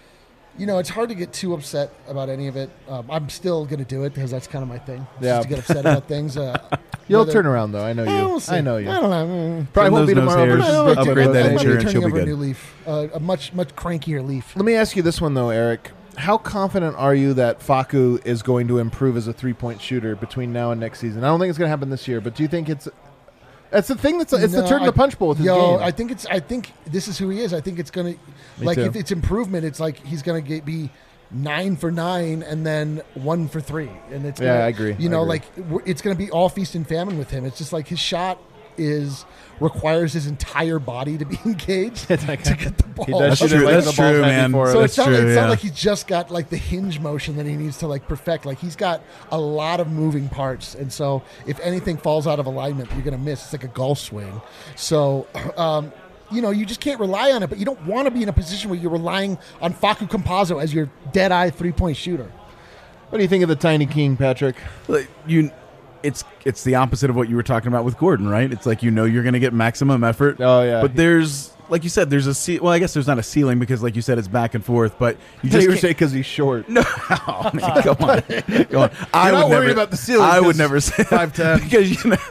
you know, it's hard to get too upset about any of it. Um, I'm still going to do it because that's kind of my thing. Just Yeah. to get upset about things. Uh, You'll whether- turn around though. I know Eh, you. we'll see. I know you. I don't know. Mm. Probably Trim won't be those nose tomorrow. but hairs, it's upgrade big. that I might be insurance, turning you'll be over a good. new leaf, uh, a much much crankier leaf. Let me ask you this one though, Eric. How confident are you that Facu is going to improve as a three-point shooter between now and next season? I don't think it's going to happen this year, but do you think it's it's the thing that's it's the No, turn I- the punch bowl with his Yo, game? I think it's. I think this is who he is. I think it's gonna, Me like, too. if it's improvement, it's like he's gonna get be nine for nine and then one for three, and it's Yeah, gonna, I agree. You I know, agree. like w- it's gonna be all feast and famine with him. It's just like his shot is requires his entire body to be engaged to get the ball. He does That's shoot true. it like That's the ball's true, heavy man. for it. So That's it's not, true, it's yeah. not like he's just got like the hinge motion that he needs to like perfect. Like he's got a lot of moving parts, and so if anything falls out of alignment, you're gonna miss. It's like a golf swing. So, um, you know, you just can't rely on it. But you don't want to be in a position where you're relying on Facu Campazzo as your dead eye three point shooter. What do you think of the Tiny King, Patrick? Like, you it's it's the opposite of what you were talking about with Gordon, right? It's like you know you're going to get maximum effort. Oh, yeah. But there's like you said, there's a ce- well, I guess there's not a ceiling because like you said, it's back and forth. But you Just just you can't- say because he's short. no, oh, man, come on, come on. I You're would not never, worried about the ceiling I would 'cause never say five ten. because you know.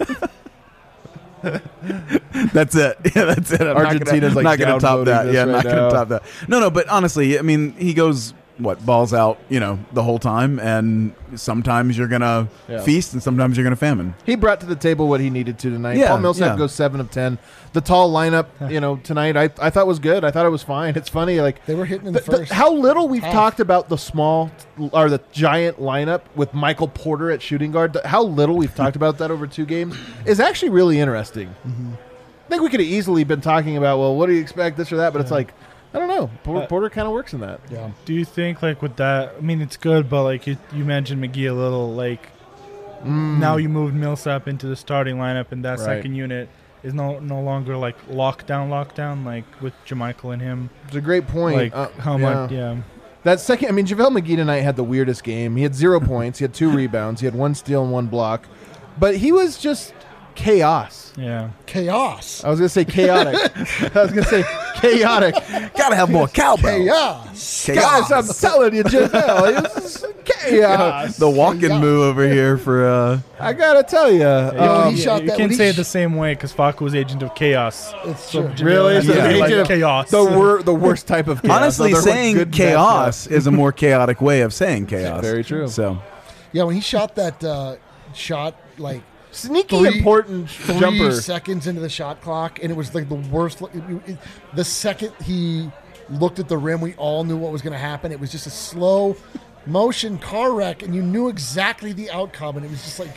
That's it. Yeah, that's it. I'm Argentina's, not like, gonna, not gonna top downvoting that. this Yeah, right not now. gonna top that. No, no. But honestly, I mean, he goes what balls out, you know, the whole time, and sometimes you're gonna Yeah. feast, and sometimes you're gonna famine. He brought to the table what he needed to tonight. Yeah, Paul Millsap yeah. goes seven of ten. The tall lineup, you know, tonight I I thought was good. I thought it was fine. It's funny, like They were hitting in the, the- the- first. how little we've half. talked about the small or the giant lineup with Michael Porter at shooting guard. The- How little we've talked about that over two games is actually really interesting. Mm-hmm. I think we could have easily been talking about, well, what do you expect, this or that, but it's like, I don't know. Por- Uh, Porter kind of works in that. yeah. Do you think like with that? I mean, it's good, but like you, you mentioned McGee a little. Like now you moved Millsap into the starting lineup, and that Right. second unit is no no longer like lockdown, lockdown. Like with Jermichael and him. It's a great point. Like Uh, how yeah. much? Yeah. That second, I mean, JaVale McGee tonight had the weirdest game. He had zero points. He had two rebounds. He had one steal and one block. But he was just chaos. Yeah. Chaos. I was going to say chaotic. I was going to say chaotic. Gotta have more cowbell. Chaos. Guys, I'm telling you, JaVale, it was chaos. The walking Yeah. move over here for uh I got to tell you. Yo, Um, he Yeah, shot you that- can't when he say it sh- the same way because Facu was agent of chaos. It's So true. J- Really? has So to the be like agent of- chaos. the, wor- the worst type of chaos. honestly So they're saying good and bad chaos is a more chaotic way of saying chaos. Very true. So Yeah, when he shot that uh, shot, like Sneaky Three- important three jumper. seconds into the shot clock, and it was like the worst. Look, it- it- the second he looked at the rim, we all knew what was going to happen. It was just a slow motion car wreck, and you knew exactly the outcome. And it was just like,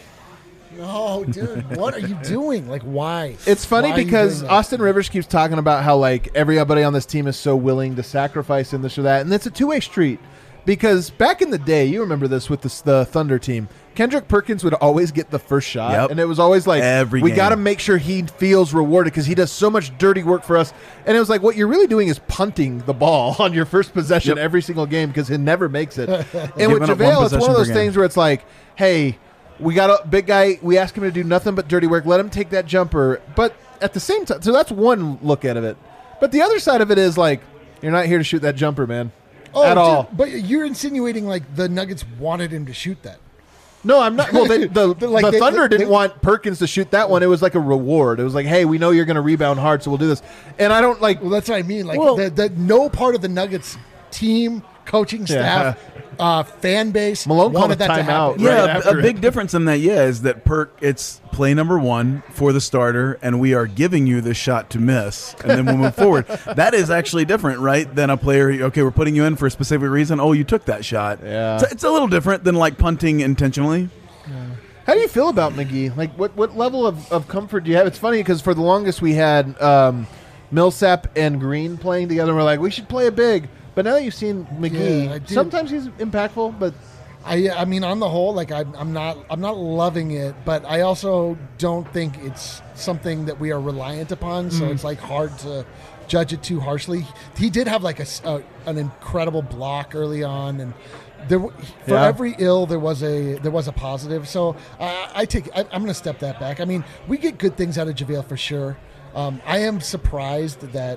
no, dude, what are you doing? Like, why? It's funny Why are you because doing that? Austin Rivers keeps talking about how like everybody on this team is so willing to sacrifice in this or that, and it's a two way street. Because back in the day, you remember this with the, the Thunder team, Kendrick Perkins would always get the first shot, Yep. and it was always like, Every we game. got to make sure he feels rewarded because he does so much dirty work for us. And it was like, what you're really doing is punting the ball on your first possession Yep. every single game because he never makes it. and with Giving up one JaVale, it's one possession of per those game. things where it's like, hey, we got a big guy. We ask him to do nothing but dirty work. Let him take that jumper. But at the same time, so that's one look at it. But the other side of it is like, you're not here to shoot that jumper, man. Oh, at dude, all. But you're insinuating like the Nuggets wanted him to shoot that. No, I'm not. Well, they, the, They're like, the they- Thunder they- didn't they- want Perkins to shoot that one. It was like a reward. It was like, hey, we know you're going to rebound hard, so we'll do this. And I don't like. Well, that's what I mean. Like Well- the, the no part of the Nuggets team coaching staff, uh, fan base Malone called wanted a that to timeout. happen. Right Yeah, a- after a it. big difference in that, yeah, is that Perk, it's play number one for the starter, and we are giving you the shot to miss, and then we'll move forward. That is actually different, right, than a player, okay, we're putting you in for a specific reason. Oh, you took that shot. Yeah. So it's a little different than, like, punting intentionally. How do you feel about McGee? Like, what, what level of, of comfort do you have? It's funny because for the longest we had um, Millsap and Green playing together, and we're like, we should play a big. But now that you've seen McGee, Yeah, I do. sometimes he's impactful, but I, I mean, on the whole, like I'm, I'm not, I'm not loving it, but I also don't think it's something that we are reliant upon. So Mm. it's like hard to judge it too harshly. He did have like a, s- a- an incredible block early on, and there w- for Yeah. every ill there was a there was a positive. So I, I take, I, I'm going to step that back. I mean, we get good things out of JaVale for sure. Um, I am surprised that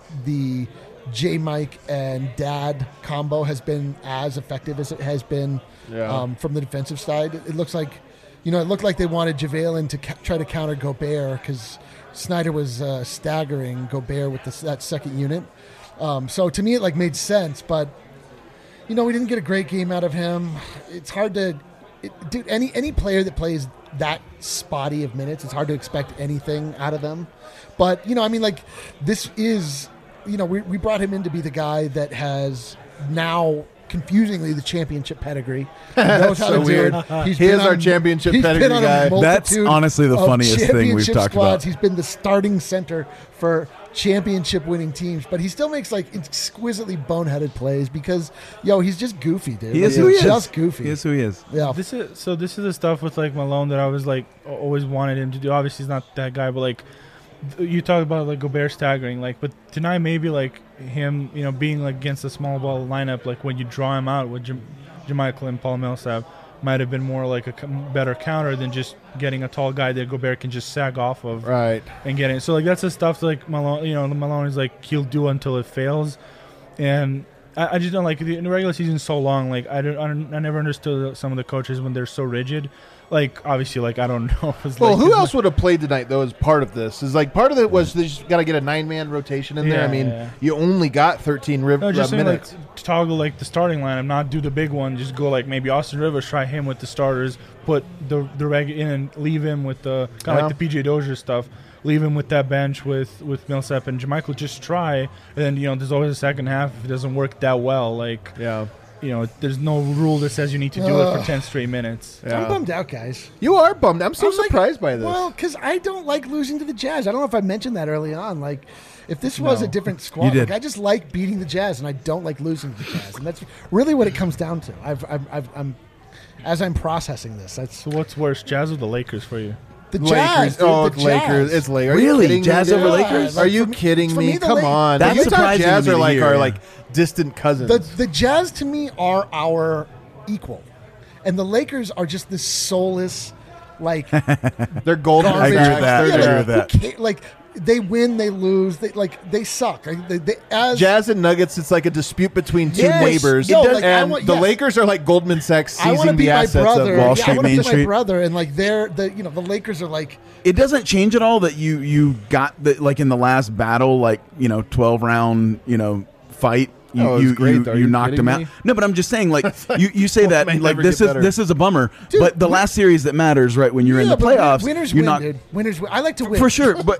the J Mike and Dad combo has been as effective as it has been Yeah. um, from the defensive side. It, it looks like, you know, it looked like they wanted JaVale in to ca- try to counter Gobert because Snyder was uh, staggering Gobert with this, that second unit. Um, so to me, it like made sense, but you know, we didn't get a great game out of him. It's hard to, it, dude. Any any player that plays that spotty of minutes, it's hard to expect anything out of them. But you know, I mean, like this is, you know, we we brought him in to be the guy that has now confusingly the championship pedigree. He knows how so to weird. do it. He's He been is our on- championship he's pedigree been on a guy. That's multitude honestly the of funniest thing we've championship talked squads. about. He's been the starting center for championship winning teams, but he still makes like exquisitely boneheaded plays because yo, he's just goofy, dude. He is Like, who he he's is. just goofy. He is who he is. Yeah. This is so. This is the stuff with like Malone that I was like a- always wanted him to do. Obviously, he's not that guy, but like th- you talk about like Gobert staggering, like, but tonight maybe like him, you know, being like against a small ball lineup, like when you draw him out with Jam- Jamichael and Paul Millsap, might have been more like a c- better counter than just getting a tall guy that Gobert can just sag off of right. and get it. So like that's the stuff like Malone, you know, Malone is like he'll do until it fails, and I, I just don't like the, the regular season's so long. Like I don't, I don't, I never understood some of the coaches when they're so rigid. Like obviously, like I don't know. If it's Well, like, who it's else would have played tonight though? As part of this is like part of it was they just got to get a nine man rotation in there. Yeah, I mean, yeah. you only got thirteen riv- No, just uh, saying, like, minutes. to toggle like the starting lineup, not do the big one. Just go like maybe Austin Rivers, try him with the starters, put the the reg in and leave him with the kind of Yeah. like the P J Dozier stuff. Leave him with that bench with with Millsap and Jamichael. Just try, and then you know there's always a second half if it doesn't work that well. Like Yeah, you know, there's no rule that says you need to do it Ugh. for ten straight minutes. I'm yeah. bummed out, guys. You are bummed. I'm so I'm like- surprised by this. Well, because I don't like losing to the Jazz. I don't know if I mentioned that early on. Like, if this was No. a different You squad, did. like I just like beating the Jazz, and I don't like losing to the Jazz, and that's really what it comes down to. I've, I've, I've I'm as I'm processing this. That's So what's worse, Jazz or the Lakers for you? the Lakers. Jazz. Dude, oh, the Lakers. Jazz. It's Lakers. Are Really? you kidding Jazz me, dude? over Lakers? Like, Are you for me- kidding for me? me, the Come Lak- on. That's the Utah surprising Jazz to me are to like hear. are like distant cousins. The the Jazz to me are our equal, and the Lakers are just this soulless, like They're golden. I agree Sacks. with that. They're I agree there. with that. who ca- like they win, they lose, they like they suck. Like, they, they, as Jazz and Nuggets, it's like a dispute between two Yes. neighbors. Yo, like, I and want- the yes. Lakers are like Goldman Sachs I want to seizing be the my assets brother. of Wall yeah, Street. I want to Main be my Street. brother, and like they're the you know the Lakers are like It doesn't change at all that you you got the like in the last battle, like you know, twelve round, you know, fight. You, Oh, it was you, great, you, though. Are you you knocked kidding him out. me? No, but I'm just saying, like you, you say Well, that may like never this get is better. this is a bummer. Dude, but the win- last series that matters, right? When you're in yeah, the but playoffs, Winners you're win, not dude. Winners win. I like to win for sure. But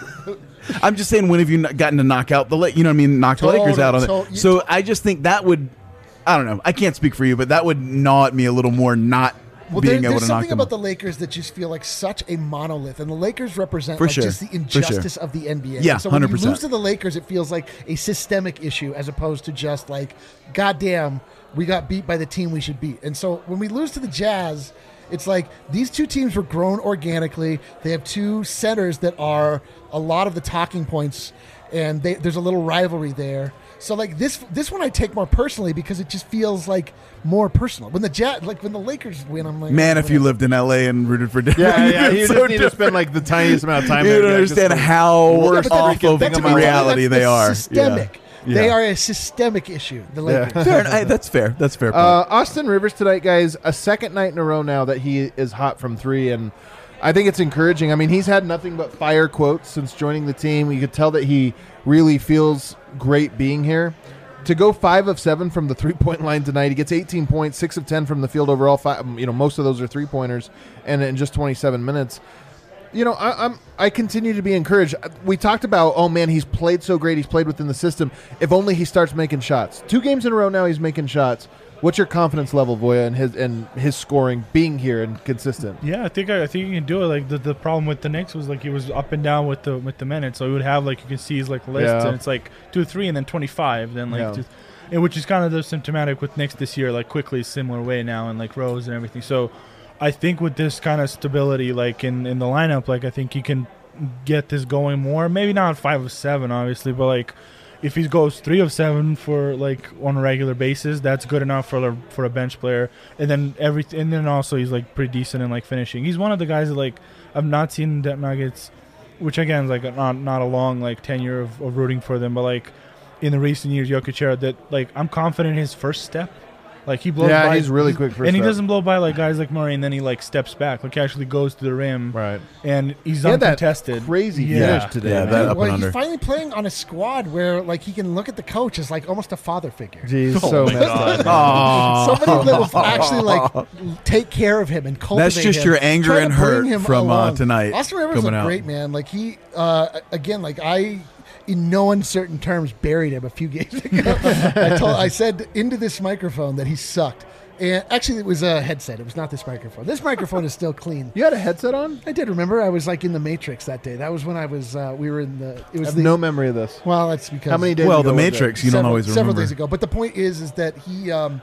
I'm just saying, when have you not gotten to knock out the La- you know what I mean, knock the Lakers Totally. out on So it? you- So I just think that would, I don't know, I can't speak for you, but that would gnaw at me a little more not Well, there, being able there's to knock something them about out. the Lakers that just feel like such a monolith, and the Lakers represent For like sure. just the For sure. injustice of the N B A. Yeah, And so when one hundred you percent. lose to the Lakers, it feels like a systemic issue as opposed to just like, goddamn, we got beat by the team we should beat. And so when we lose to the Jazz, it's like these two teams were grown organically. They have two centers that are a lot of the talking points, and they, there's a little rivalry there. So like this this one I take more personally because it just feels like more personal. When the Jazz, like when the Lakers win, I'm like, Man, oh, if you whatever. lived in L A and rooted for Denver, Yeah, yeah. it's You so just need to different. spend like the tiniest amount of time. You there. don't Yeah, understand just- how Yeah, worse but that- off of that to me, reality that's- they that's are. Systemic. Yeah. They Yeah. are a systemic issue. The Lakers. Yeah. Fair, I, that's fair. That's fair. Point. Uh, Austin Rivers tonight, guys, a second night in a row now that he is hot from three, and I think it's encouraging. I mean, he's had nothing but fire quotes since joining the team. You could tell that he really feels great being here. to go five of seven from the three-point line tonight. He gets eighteen points, six of ten from the field overall. Five, you know, most of those are three-pointers, and in just twenty-seven minutes. You know, I, I'm I continue to be encouraged. We talked about, oh man, he's played so great. He's played within the system. If only he starts making shots. Two games in a row now, he's making shots. What's your confidence level, Voya, and his and his scoring being here and consistent? Yeah, I think I, I think you can do it. Like the, the problem with the Knicks was like he was up and down with the with the minutes. So he would have like you can see his like list, Yeah. and it's like two three and then twenty-five, then like Yeah. just, and which is kind of the symptomatic with Knicks this year. Like quickly similar way now, and like Rose and everything. So I think with this kind of stability, like in in the lineup, like I think you can get this going more. Maybe not five of seven, obviously, but like. If he goes three of seven for like on a regular basis, that's good enough for a, for a bench player. And then every and then also he's like pretty decent in like finishing. He's one of the guys that like I've not seen the Nuggets, which again is like not not a long like tenure of, of rooting for them, but like in the recent years, Jokic era, that like I'm confident in his first step. Like he blows Yeah, by, he's really quick first and he step. doesn't blow by like guys like Murray, and then he like steps back, like he actually goes to the rim, Right. and he's He had that uncontested. crazy Yeah. finish today. Yeah, man. that up well, and he's under. finally playing on a squad where like he can look at the coach as like almost a father figure. Jeez, Oh so my messed God. up. Aw. Somebody that will actually like take care of him and cultivate That's just him, your anger try to and bring hurt him from, uh, along. tonight Austin Rivers coming looked out. great, man. Like he, uh, again, like I, in no uncertain terms, buried him a few games ago. I told, I said into this microphone that he sucked. And actually, it was a headset. It was not this microphone. This microphone is still clean. You had a headset on? I did remember. I was like in the Matrix that day. That was when I was. Uh, we were in the. It I was have the, no memory of this. Well, that's because How many days Well, ago the was it? Matrix, you several, don't always several remember. days ago. But the point is, is that he, um,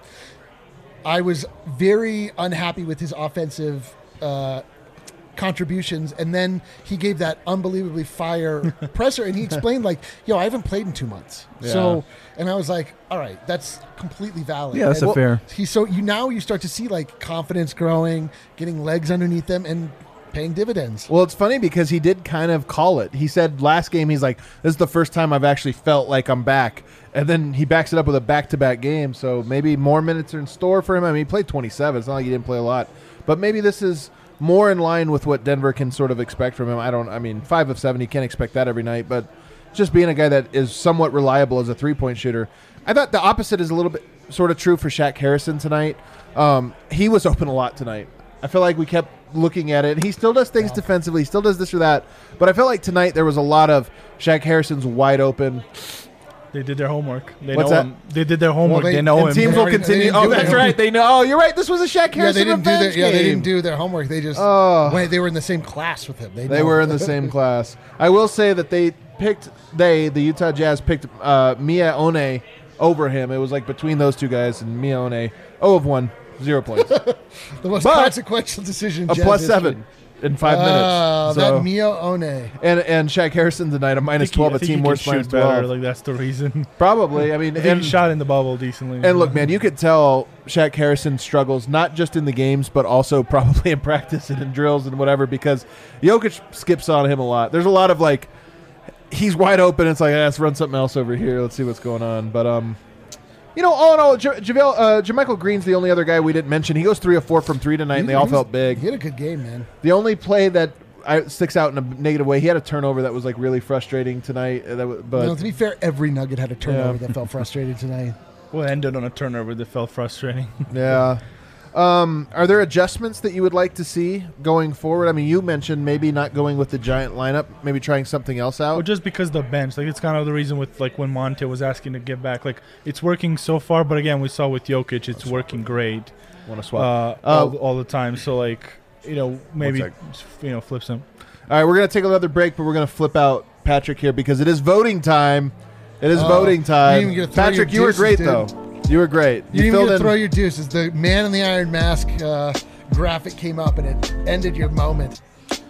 I was very unhappy with his offensive uh, contributions, and then he gave that unbelievably fire presser, and he explained like, "Yo, I haven't played in two months." Yeah. So, and I was like, "All right, that's completely valid." Yeah, that's And a fair. He so you now you start to see like confidence growing, getting legs underneath them, and paying dividends. Well, it's funny because he did kind of call it. He said last game, he's like, this is the first time I've actually felt like I'm back. And then he backs it up with a back-to-back game. So maybe more minutes are in store for him. I mean, he played twenty-seven. It's not like he didn't play a lot. But maybe this is more in line with what Denver can sort of expect from him. I don't, I mean, five of seven, you can't expect that every night. But just being a guy that is somewhat reliable as a three-point shooter. I thought the opposite is a little bit sort of true for Shaq Harrison tonight. Um, he was open a lot tonight. I feel like we kept looking at it. He still does things defensively. He still does this or that. But I felt like tonight there was a lot of Shaq Harrison's wide open. They did their homework. They What's know that? him. They did their homework. they- they, know and him. teams They will already- continue. they didn't Oh, do that's it. right. They know. Oh, you're right. This was a Shaq Yeah, Harrison they didn't do revenge their, yeah, they game. didn't do their homework. They just Oh. wait, they were in the same class with him. They, They know. were in the same class. I will say that they picked, they, the Utah Jazz, picked uh, Mia One over him. It was like between those two guys, and Mia One, zero of one, zero points. the most but- consequential decision. in A Jazz plus history. seven in five Oh, minutes. So, that Mio One. and and Shaq Harrison tonight, a I minus think he- twelve, I a think team he worst can minus shoot better. twelve. Like that's the reason. Probably. I mean, I think and, he shot in the bubble decently. and look, man, you could tell Shaq Harrison struggles not just in the games, but also probably in practice and in drills and whatever, because Jokic skips on him a lot. There's a lot of like, he's wide open. It's like, ah, let's run something else over here. Let's see what's going on. But um, you know, all in all, J- JaVale, uh, JaMychal Green's the only other guy we didn't mention. He goes three of four from three tonight, and they all He was- felt big. He had a good game, man. The only play that I, sticks out in a negative way, he had a turnover that was like really frustrating tonight. uh, That was, but No, to be fair, every Nugget had a turnover Yeah. that felt frustrated tonight. well, it ended on a turnover that felt frustrating. yeah. Um, are there adjustments that you would like to see going forward? I mean, you mentioned maybe not going with the giant lineup, maybe trying something else Well, out. just because the bench, like it's kind of the reason with like when Monte was asking to get back, like it's working so far, but again, we saw with Jokic, it's working great Want to uh, swap? all, Uh, all the time. So like you know maybe sec. you know flips him. All right, we're gonna take another break, but we're gonna flip out Patrick here because it is voting time. It is Oh, voting time. you didn't even get to throw Patrick, your you were deuces, great dude. though. You were great. You, didn't even filled get to in. throw your deuces. The man in the iron mask uh, graphic came up and it ended your moment.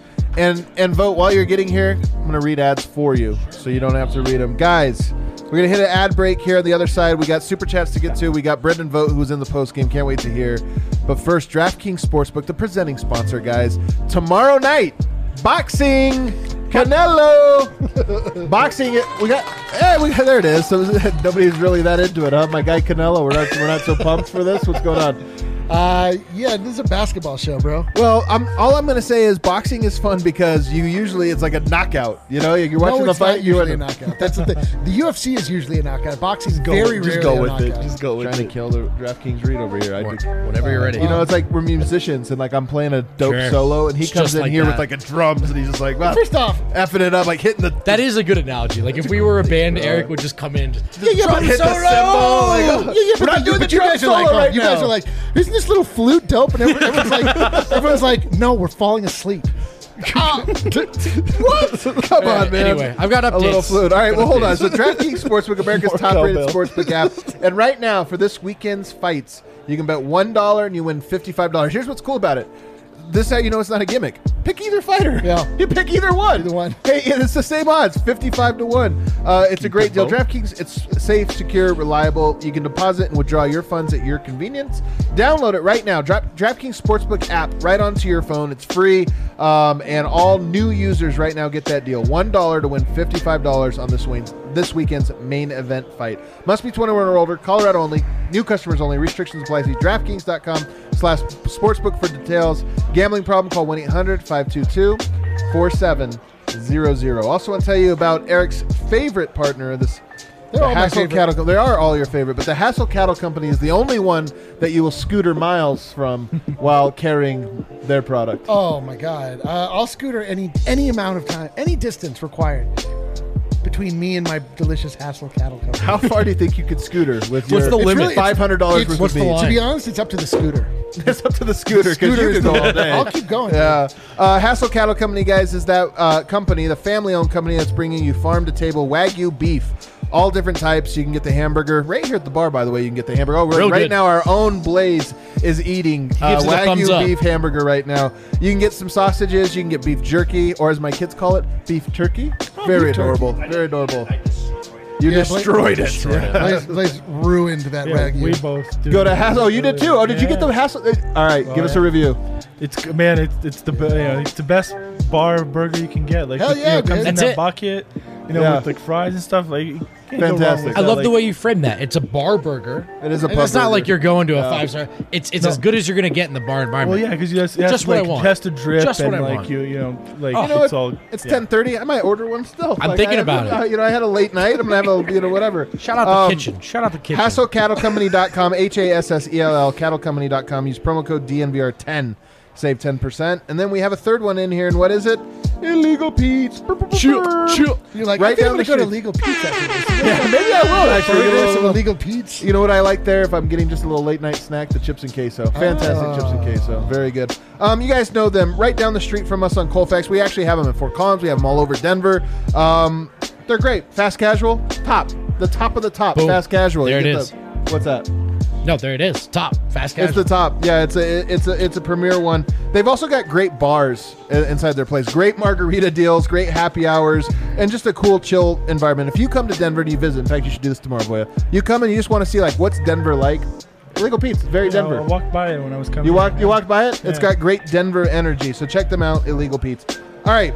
And and vote while you're getting here. I'm gonna read ads for you, so you don't have to read them, guys. We're gonna hit an ad break here on the other side. We got super chats to get to. We got Brendan Vogt, who's in the post game. Can't wait to hear. But first, DraftKings Sportsbook, the presenting sponsor, guys. Tomorrow night, boxing, Canelo, boxing. We got. Hey, we got, there it is. So nobody's really that into it, huh? My guy Canelo. We're not. We're not so pumped for this. What's going on? Uh, yeah, this is a basketball show, bro. Well, I'm, all I'm going to say is boxing is fun because you usually it's like a knockout. You know, you're watching no, the it's fight. not You usually a end knockout. That's the thing. The U F C is usually a knockout. Boxing's very just rarely go a with it. knockout. Just go with trying it. to kill the DraftKings read over here. I do. Whenever you're ready. You know, it's like we're musicians and like I'm playing a dope Sure. solo and he It's comes just in like here that. with like a drums and he's just like, wow, First off, effing it up, like hitting the. That is a good analogy. Like if we were a band, Eric would just come in. Just, yeah, yeah, but hit the solo! cymbal, like, oh, yeah, yeah, we're but, not doing but the you guys drum are like, solo oh, right you guys now. are like, isn't this little flute dope? And everyone- everyone's like, everyone's like, no, we're falling asleep. Ah, what? Come on, man. Anyway, I've got updates. A little flute. All right, well, hold on. So Updates. DraftKings Sportsbook, America's More top-rated cowbell. sportsbook app. And right now, for this weekend's fights, you can bet one dollar and you win fifty-five dollars. Here's what's cool about it. This is how you know it's not a gimmick. Pick either fighter. Yeah. You pick either one. Either one. Hey, and it's the same odds, fifty-five to one. Uh, it's a great deal. both. DraftKings, it's safe, secure, reliable. You can deposit and withdraw your funds at your convenience. Download it right now. Drop DraftKings Sportsbook app right onto your phone. It's free. Um, and all new users right now get that deal. one dollar to win fifty-five dollars on this, win- this weekend's main event fight. Must be twenty-one or older. Colorado only. New customers only. Restrictions apply. See DraftKings.com slash sportsbook for details. Gambling problem? Call one eight hundred five two two four seven zero zero. Also want to tell you about Eric's favorite partner, this They're the all my Hassel favorite. Cattle. They are all your favorite, but the Hassel Cattle Company is the only one that you will scooter miles from while carrying their product. Oh my God! Uh, I'll scooter any any amount of time, any distance required between me and my delicious Hassel Cattle Company. How far do you think you could scooter with What's your the limit? really- five hundred dollars it's- worth what's of the meat? line? To be honest, it's up to the scooter. It's up to the scooter because Scooter you is could the- go all day. I'll keep going. Yeah. Uh, Hassel Cattle Company, guys, is that uh, company, the family-owned company that's bringing you farm-to-table Wagyu beef. All different types. You can get the hamburger right here at the bar. By the way, you can get the hamburger. Oh, we're, Real right good. now our own Blaze is eating uh, gives it a thumbs up. Wagyu beef hamburger right now. You can get some sausages. You can get beef jerky, or as my kids call it, beef turkey. Very beef turkey. adorable. Very adorable. You Yeah, destroyed Blaze- it. Destroyed it. Blaze, Blaze ruined that Yeah, Wagyu. we both do. Go to Hassel. Oh, you did too. Oh, did you get the Yeah. Hassel? All right, Oh, give us yeah. a review. It's man, it's it's the be- you know, it's the best bar burger you can get. Like Hell it, you yeah, know, it comes dude. in That's that it. bucket, you know, Yeah. with like fries and stuff. Like you can't go wrong Fantastic. with I that. love the Like, way you frame that. It's a bar burger. It is a And pub it's not burger. like you're going to a No. five star. It's it's No. as good as you're gonna get in the bar environment. Well, yeah, because you just it has Just to, what I like, want. it has to drip Just what and I like want. you you know like You know it's what? all It's yeah. ten thirty. I might order one still. I'm Like, thinking I- about it. uh, You know, I had a late night. I'm gonna have a you know whatever. Shout out the Um, kitchen. Shout out the kitchen. Hassel Cattle Company dot com, H A S S E L L, cattle company dot com. Use promo code D N V R ten. Save ten percent. And then we have a third one in here. And what is it? Illegal Pete's. Chill, chill. You're like, Right I think down I'm the gonna go to street. Legal Pete's after this. Yeah, maybe I will actually. We're Get a gonna little- some illegal Pete's. You know what I like there? If I'm getting just a little late night snack, the chips and queso. Fantastic Oh. chips and queso. Very good. Um, you guys know them right down the street from us on Colfax. We actually have them in Fort Collins. We have them all over Denver. Um, they're great. Fast casual, top. The top of the top. Boom. Fast casual. There You it get is. the- what's that? No, there it is. Top fast It's casual. the top. Yeah, it's a it's a it's a premier one. They've also got great bars i- inside their place. Great margarita deals, great happy hours, and just a cool, chill environment. If you come to Denver and you visit, in fact, you should do this tomorrow, boy. You come and you just want to see like what's Denver like. Illegal Pete's, very You know, Denver. I walked by it when I was coming. You walked in. you walked by it? It's Yeah. got great Denver energy. So check them out, Illegal Pete's. All right.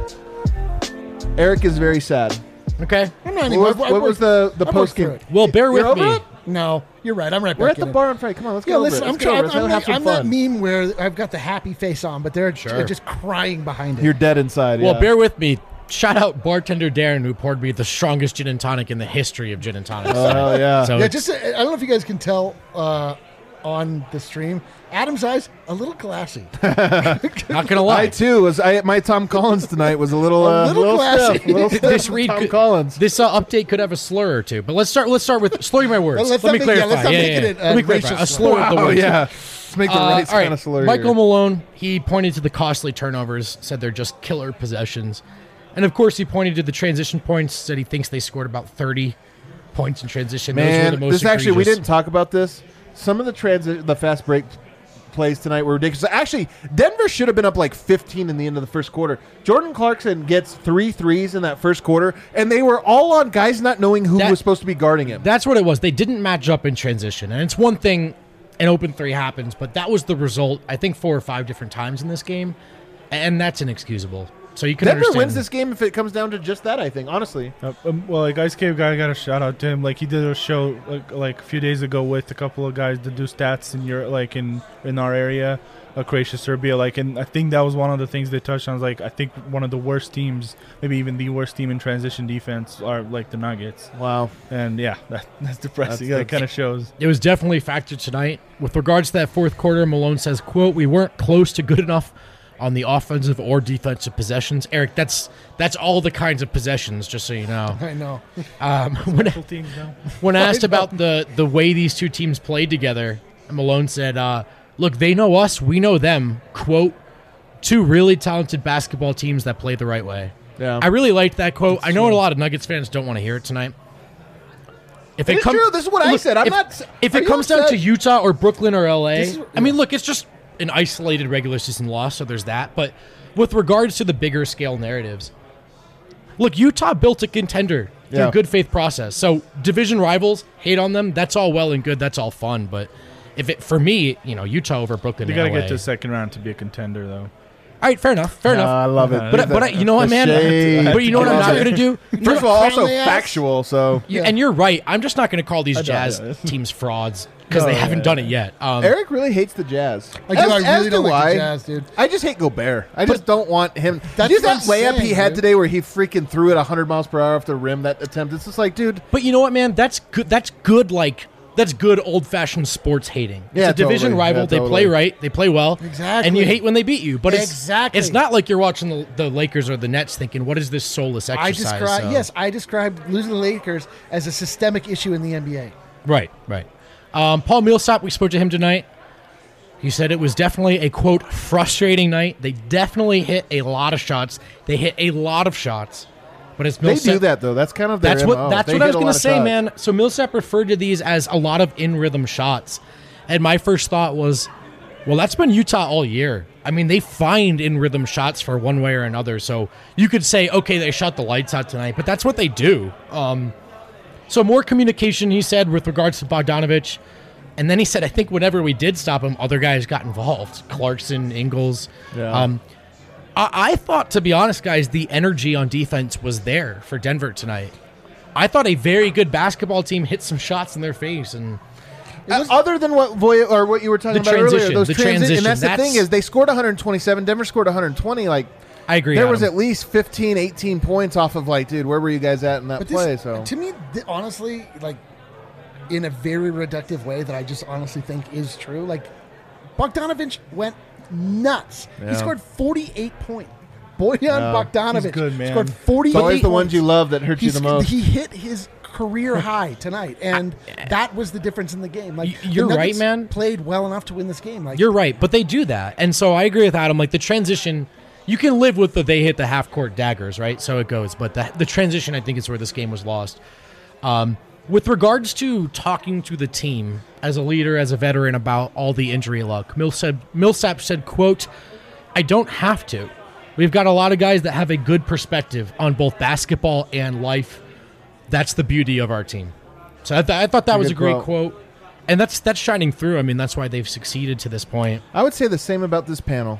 Eric is very sad. Okay. I'm not anymore. What, was- what was the the I worked post through game? it. Well, bear with You're over me. it? No, you're right. I'm right We're back at the in it. bar on Friday. Come on, let's Yeah, go over listen, it. I'm, Let's go try- over I'm, it. Let's I'm, have that, some I'm that fun. meme where I've got the happy face on, but they're, Sure. they're just crying behind it. You're dead inside. Well, yeah. bear with me. Shout out bartender Darren, who poured me the strongest gin and tonic in the history of gin and tonics. Oh, hell yeah. So yeah, it's- just uh, I don't know if you guys can tell uh, on the stream. Adam's eyes a little glassy. not gonna I lie. too was. I my Tom Collins tonight was a little A uh, little glassy. stiff. A little stiff This with read Tom could- Collins. This uh, update could have a slur or two, but let's start. Let's start with slurring my words. Well, let's Let not me make- yeah, clarify. let's not Yeah, make yeah, it yeah. a- Let a me clarify. racist A slur of the Wow, words. yeah. Let's make the Uh, race all right. kind of slurry. Michael here. Malone, he pointed to the costly turnovers, said they're just killer possessions. And of course, he pointed to the transition points, said he thinks they scored about thirty points in transition. Those were Man, the most this actually we egregious. didn't talk about this. Some of the transi- the fast break plays tonight were ridiculous. Actually, Denver should have been up like fifteen in the end of the first quarter. Jordan Clarkson gets three threes in that first quarter, and they were all on guys not knowing who That- was supposed to be guarding him. That's what it was. They didn't match up in transition. And it's one thing an open three happens, but that was the result, I think, four or five different times in this game. And that's inexcusable. So you can Denver understand. wins this game if it comes down to just that. I think, honestly. Uh, um, well, like Ice Cave guy got a shout out to him. Like he did a show like, like a few days ago with a couple of guys that do stats in your like in in our area, uh, Croatia, Serbia. Like, and I think that was one of the things they touched on. Was like I think one of the worst teams, maybe even the worst team in transition defense, are like the Nuggets. Wow. And yeah, that, that's depressing. That's- That kind of shows. It was definitely a factor tonight. With regards to that fourth quarter, Malone says, quote, "We weren't close to good enough on the offensive or defensive possessions." Eric, that's that's all the kinds of possessions, just so you know. I know. Um, when, Full teams now. when asked about the, the way these two teams played together, Malone said, uh, look, they know us, we know them. Quote, "Two really talented basketball teams that play the right way." Yeah. I really liked that quote. I know a lot of Nuggets fans don't want to hear it tonight. If It's true. This is what I said. I'm if, not- If are it you comes down upset? to Utah or Brooklyn or L A, This is- I mean, look, it's just an isolated regular season loss, so there's that. But with regards to the bigger scale narratives, look, Utah built a contender through Yeah. good faith process. So division rivals, hate on them. That's all well and good. That's all fun. But if it for me, you know, Utah over Brooklyn, You got got to get to the second round to be a contender, though. All right, fair enough. Fair Uh, enough. I love it. But but I, you know what, The man? shade. But you know what I'm not going to do? First of all, also Friendly ass. factual. So You- And you're right. I'm just not going to call these know, Jazz yeah. teams frauds because No, they haven't yeah, done it yet. Um, Eric really hates the Jazz. I do. As- I as really don't do like the I. Jazz, dude. I just hate Gobert. I just don't want him. That's Did you see that what I'm layup he saying, had dude. today where he freaking threw it one hundred miles per hour off the rim? That attempt. It's just like, dude. But you know what, man? That's good. That's good. Like that's good old-fashioned sports hating. It's Yeah, a division totally. rival. Yeah, they totally. play right. They play well. Exactly. And you hate when they beat you. But it's Exactly. it's not like you're watching the, the Lakers or the Nets thinking, "What is this soulless I exercise?" describe So- yes, I described losing the Lakers as a systemic issue in the N B A. Right. Right. Um, Paul Millsap. We spoke to him tonight. He said it was definitely a quote frustrating night. They definitely hit a lot of shots. They hit a lot of shots. But it's They Millsap. do that though. That's kind of their That's M O. what that's They what I hit was a going lot to of say, shots. man. So Millsap referred to these as a lot of in rhythm shots, and my first thought was, well, that's been Utah all year. I mean, they find in rhythm shots for one way or another. So you could say, okay, they shot the lights out tonight, but that's what they do. Um, so more communication, he said, with regards to Bogdanovich. And then he said, I think whenever we did stop him, other guys got involved. Clarkson, Ingles. Yeah. Um, I, I thought, to be honest, guys, the energy on defense was there for Denver tonight. I thought a very good basketball team hit some shots in their face. And Uh, other than what Voya or what you were talking The about earlier, transition, those the transi- transition, and that's, the that's- thing is they scored one hundred twenty-seven. Denver scored one hundred twenty. Like I agree. there was Adam. at least fifteen, eighteen points off of like, dude, where were you guys at in that But play? this, So to me, th- honestly, like in a very reductive way that I just honestly think is true. Like Bogdanovich went nuts. Yeah. He scored forty-eight points. Boyan Bogdanovich He's good, man. scored forty-eight it's always the ones points. you love that hurt you He's- the most. He hit his career high tonight, and that was the difference in the game. Like Y- the you're right, Nuggets man. Played well enough to win this game. Like You're right, but they do that. And so I agree with Adam. Like the transition, you can live with the they hit the half court daggers, right? So it goes. But the, the transition, I think, is where this game was lost. Um, with regards to talking to the team as a leader, as a veteran about all the injury luck, Millsap, Millsap said, quote, I don't have to. We've got a lot of guys that have a good perspective on both basketball and life. That's the beauty of our team. So I, th- I thought that a was a good great quote. quote. And that's that's shining through. I mean, that's why they've succeeded to this point. I would say the same about this panel.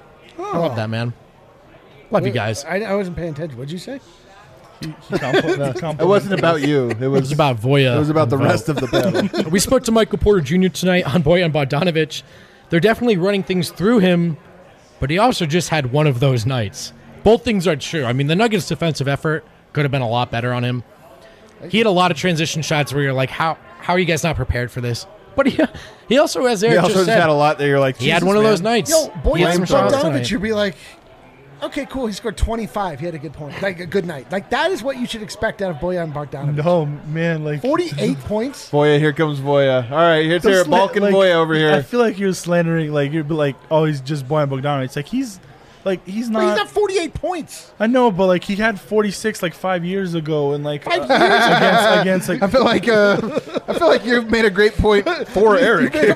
I love that, man. Love you guys. I, I wasn't paying attention. What'd you say? He compl- he compliment- It wasn't about you. It It was was about Voya. It was about the and Vogt. rest of the panel. We spoke to Michael Porter Junior tonight on Boyan Bogdanovich. They're definitely running things through him, but he also just had one of those nights. Both things are true. I mean, the Nuggets' defensive effort could have been a lot better on him. He had a lot of transition shots where you're like, how how are you guys not prepared for this? But he, he also, as He Eric also just just said, had a lot that you're like, he had Jesus, one of man. those nights. Yo, He had Boyan some shots Bogdanovich, tonight. you'd be like, okay, cool. He scored twenty-five. He had a good point. Like a good night. Like that is what you should expect out of Boyan Bogdanovich. No, man, like forty-eight points. Voya, here comes Voya. All right, here's the here, sla- Balkan like, Voya over I here. feel like you're slandering, like you're like, oh, he's just Boyan Bogdanovic. It's like he's, like he's But not. he's got forty-eight points. I know, but like he had forty-six like five years ago, and like Five uh, years against against like I feel like uh, I feel like you've made a great point for Eric here.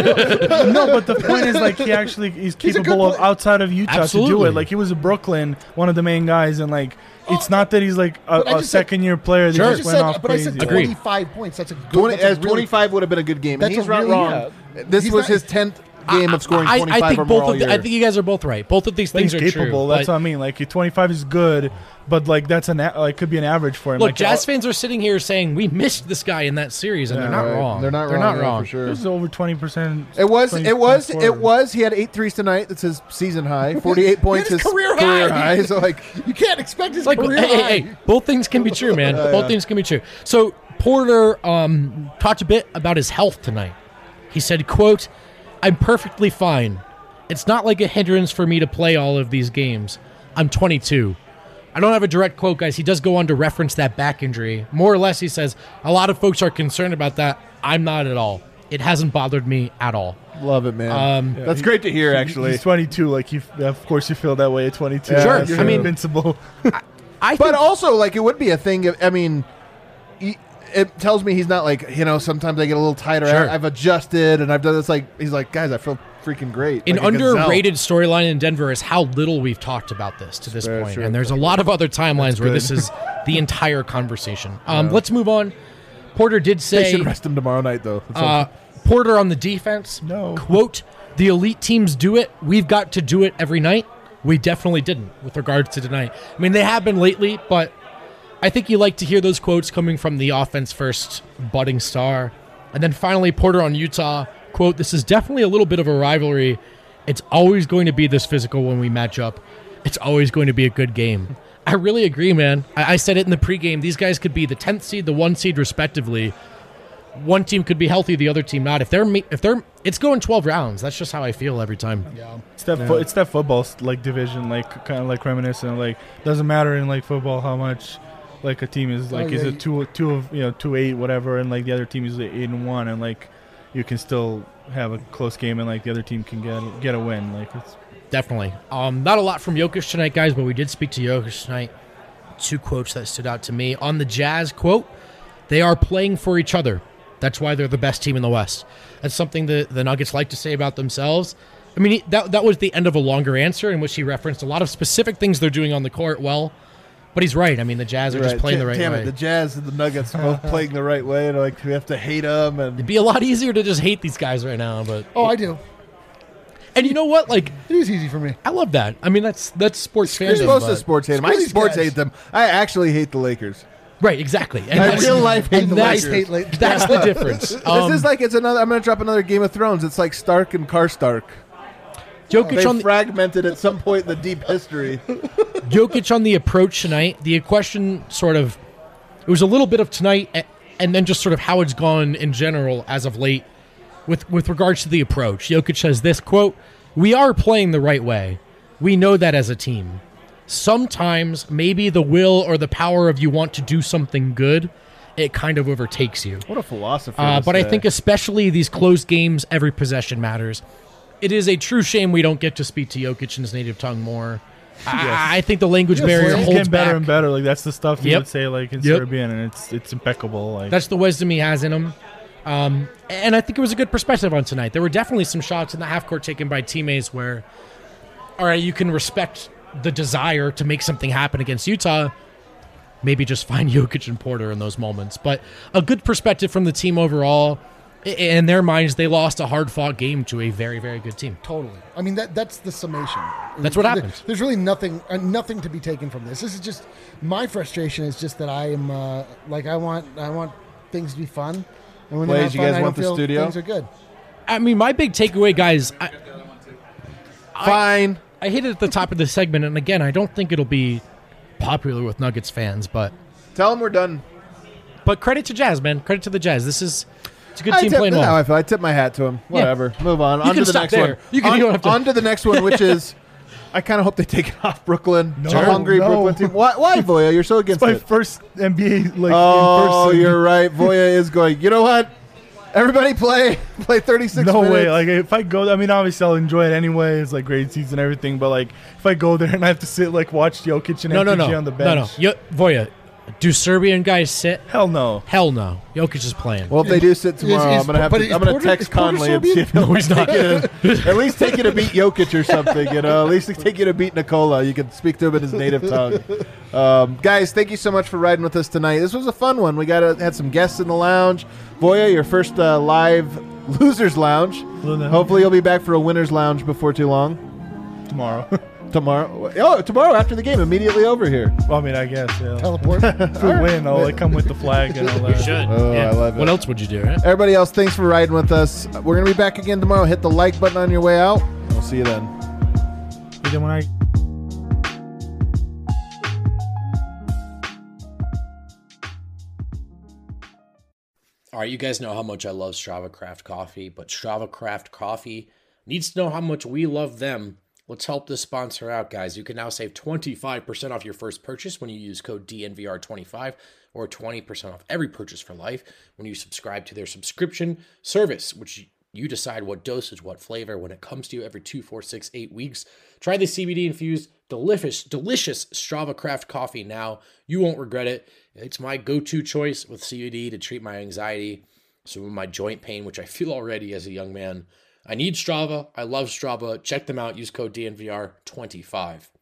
no, but the point is like he actually is He's a good capable of player. outside of Utah to do Absolutely. it. Like he was in Brooklyn, one of the main guys, and like it's not that he's like a, But I a just said- second year player that Sure. I just just went said, off but I crazy. said Agreed. twenty-five points. That's a good. twenty, that's a as really- twenty-five would have been a good game, and That's he's a not really- wrong. yeah. This He's was not- his tenth game of scoring I, twenty-five I think or more both all of the, year. I think you guys are both right. Both of these But things he's are capable. true. That's but- what I mean. Like twenty-five is good, but like that's an a- like could be an average for him. Look, like, Jazz uh, fans are sitting here saying we missed this guy in that series, and Yeah, they're not Right. wrong. They're not They're wrong, not yeah, wrong. for sure. It was over twenty percent. It was. It was. It was. He had eight threes tonight. That's his season high. Forty-eight points. his His career high. high. So like, You can't expect his Like, career hey, high. hey, hey, both things can be true, man. Yeah, both yeah. things can be true. So Porter um, talked a bit about his health tonight. He said, "quote I'm perfectly fine. It's not like a hindrance for me to play all of these games. I'm twenty-two." I don't have a direct quote, guys. He does go on to reference that back injury. More or less, he says, a lot of folks are concerned about that. I'm not at all. It hasn't bothered me at all. love it, man. Um, That's great to hear. Actually, he's twenty-two. Like you, of course, you feel that way at twenty-two. Yeah, Sure. You're I mean- invincible. I but think, also like it would be a thing. If, I mean, he, it tells me he's not like you know. Sometimes I get a little tighter. Sure. I, I've adjusted and I've done this. Like he's like, guys, I feel freaking great. an Like a gazelle. underrated storyline in Denver is how little we've talked about this to this Very point. true. And there's a lot of other timelines where good. this is the entire conversation. Um, Let's move on. Porter did They say, should rest him tomorrow night though. It's uh, Porter on the defense, No. quote, the elite teams do it. We've got to do it every night. We definitely didn't with regards to tonight. I mean, they have been lately, but I think you like to hear those quotes coming from the offense first budding star. And then finally, Porter on Utah, quote, this is definitely a little bit of a rivalry. It's always going to be this physical when we match up. It's always going to be a good game. I really agree, man. I, I said it in the pregame. These guys could be the tenth seed, the one seed, respectively. One team could be healthy, the other team not. If they're, me- if they're, it's going twelve rounds. That's just how I feel every time. Yeah. It's that fo- it's that football like division, like kind of like reminiscent. Like doesn't matter in like football how much like a team is like Oh, is yeah, it two two of you know two eight whatever, and like the other team is eight and one, and like you can still have a close game, and like the other team can get get a win. Like it's Definitely. Um, not a lot from Jokic tonight, guys, but we did speak to Jokic tonight. Two quotes that stood out to me. On the Jazz, quote, they are playing for each other. That's why they're the best team in the West. That's something that the Nuggets like to say about themselves. I mean, he, that that was the end of a longer answer in which he referenced a lot of specific things they're doing on the court well. But he's right. I mean, the Jazz are Right. just playing the right Damn way. it, the Jazz and the Nuggets both playing the right way. And like we have to hate them. And It'd be a lot easier to just hate these guys right now. But Oh, I do. and you know what? Like, It is easy for me. I love that. I mean, that's that's sports you're fandom. supposed to but- sports hate them. Screw I these sports guys. hate them. I actually hate the Lakers. Right, exactly. And I that's- real life hate and the that's- Lakers. hate Lakers. That's the difference. Um, this is like it's another. I'm going to drop another Game of Thrones. It's like Stark and Karstark. Jokic They on the, fragmented at some point in the deep history. Jokic on the approach tonight. The question sort of, it was a little bit of tonight, a- and then just sort of how it's gone in general as of late, with with regards to the approach. Jokic says this quote: "We are playing the right way. We know that as a team. Sometimes maybe the will or the power of you want to do something good, it kind of overtakes you. What a philosopher. Uh, this but I guy. think especially these close games, every possession matters. It is a true shame we don't get to speak to Jokic in his native tongue more. I, I think the language Yes, barrier he's He's holds getting better back. and better. Like that's the stuff he Yep. would say like in Yep. Serbian, and it's it's impeccable. Like That's the wisdom he has in him. Um, and I think it was a good perspective on tonight. There were definitely some shots in the half court taken by teammates where, all right, you can respect the desire to make something happen against Utah. Maybe just find Jokic and Porter in those moments. But a good perspective from the team overall. I- In their minds, they lost a hard-fought game to a very, very good team. Totally. I mean, that that's the summation. That's what There- happens. There's really nothing uh, nothing to be taken from this. This is just my frustration is just that I am uh, like I want I want things to be fun. And when they're Blaze, not you fun, guys I want don't the feel studio? things are good. I mean, my big takeaway, guys, I, Fine. I hit it at the top of the segment, and again, I don't think it'll be popular with Nuggets fans, but Tell them we're done. but credit to Jazz, man. Credit to the Jazz. This is it's a good I team tip, playing this is how well. I feel. I tip my hat to him. Whatever. Move on. You on can to the stop next there. one. You can- on, you don't have to- on to the next one, which is I kind of hope they take it off Brooklyn. No, the hungry no. Brooklyn team. Why, why, Voya? You're so against my it. first N B A like Oh, in person. you're right. Voya is going. You know what? Everybody play play thirty-six No minutes. way! Like if I go, I mean, obviously I'll enjoy it anyway. It's like great season and everything. But like if I go there and I have to sit like watch Jokic and No, M P G no, no, on the no, no. bench, Yo, Voya, Do Serbian guys sit? Hell no. Hell no. Jokic is playing. Well, if they do sit tomorrow, is- I'm gonna have but to. is I'm gonna Porter- text is Porter Conley and see Serbian? if he'll he's not. take you to, at least take you to beat Jokic or something. You know, at least take you to beat Nikola. You can speak to him in his native tongue. Um, guys, thank you so much for riding with us tonight. This was a fun one. We got a, had some guests in the lounge. Voya, your first uh, live losers lounge. Luna. Hopefully, you'll be back for a winners lounge before too long. Tomorrow. Tomorrow. Oh, tomorrow after the game, immediately over here. Well, I mean, I guess, yeah. Teleport. If we win, I'll like, come with the flag and all that. You should. Oh, I love it. What else would you do, right? Everybody else, thanks for riding with us. We're going to be back again tomorrow. Hit the like button on your way out. We'll see you then. But then when I All right, you guys know how much I love Strava Craft Coffee, but Strava Craft Coffee needs to know how much we love them. Let's help this sponsor out, guys. You can now save twenty-five percent off your first purchase when you use code D N V R twenty-five, or twenty percent off every purchase for life when you subscribe to their subscription service, which you decide what dosage, what flavor when it comes to you every two, four, six, eight weeks. Try the C B D-infused, delicious, delicious Strava Craft Coffee now. You won't regret it. It's my go-to choice with C B D to treat my anxiety, some of my joint pain, which I feel already as a young man. I need Strava. I love Strava. Check them out. Use code D N V R twenty-five.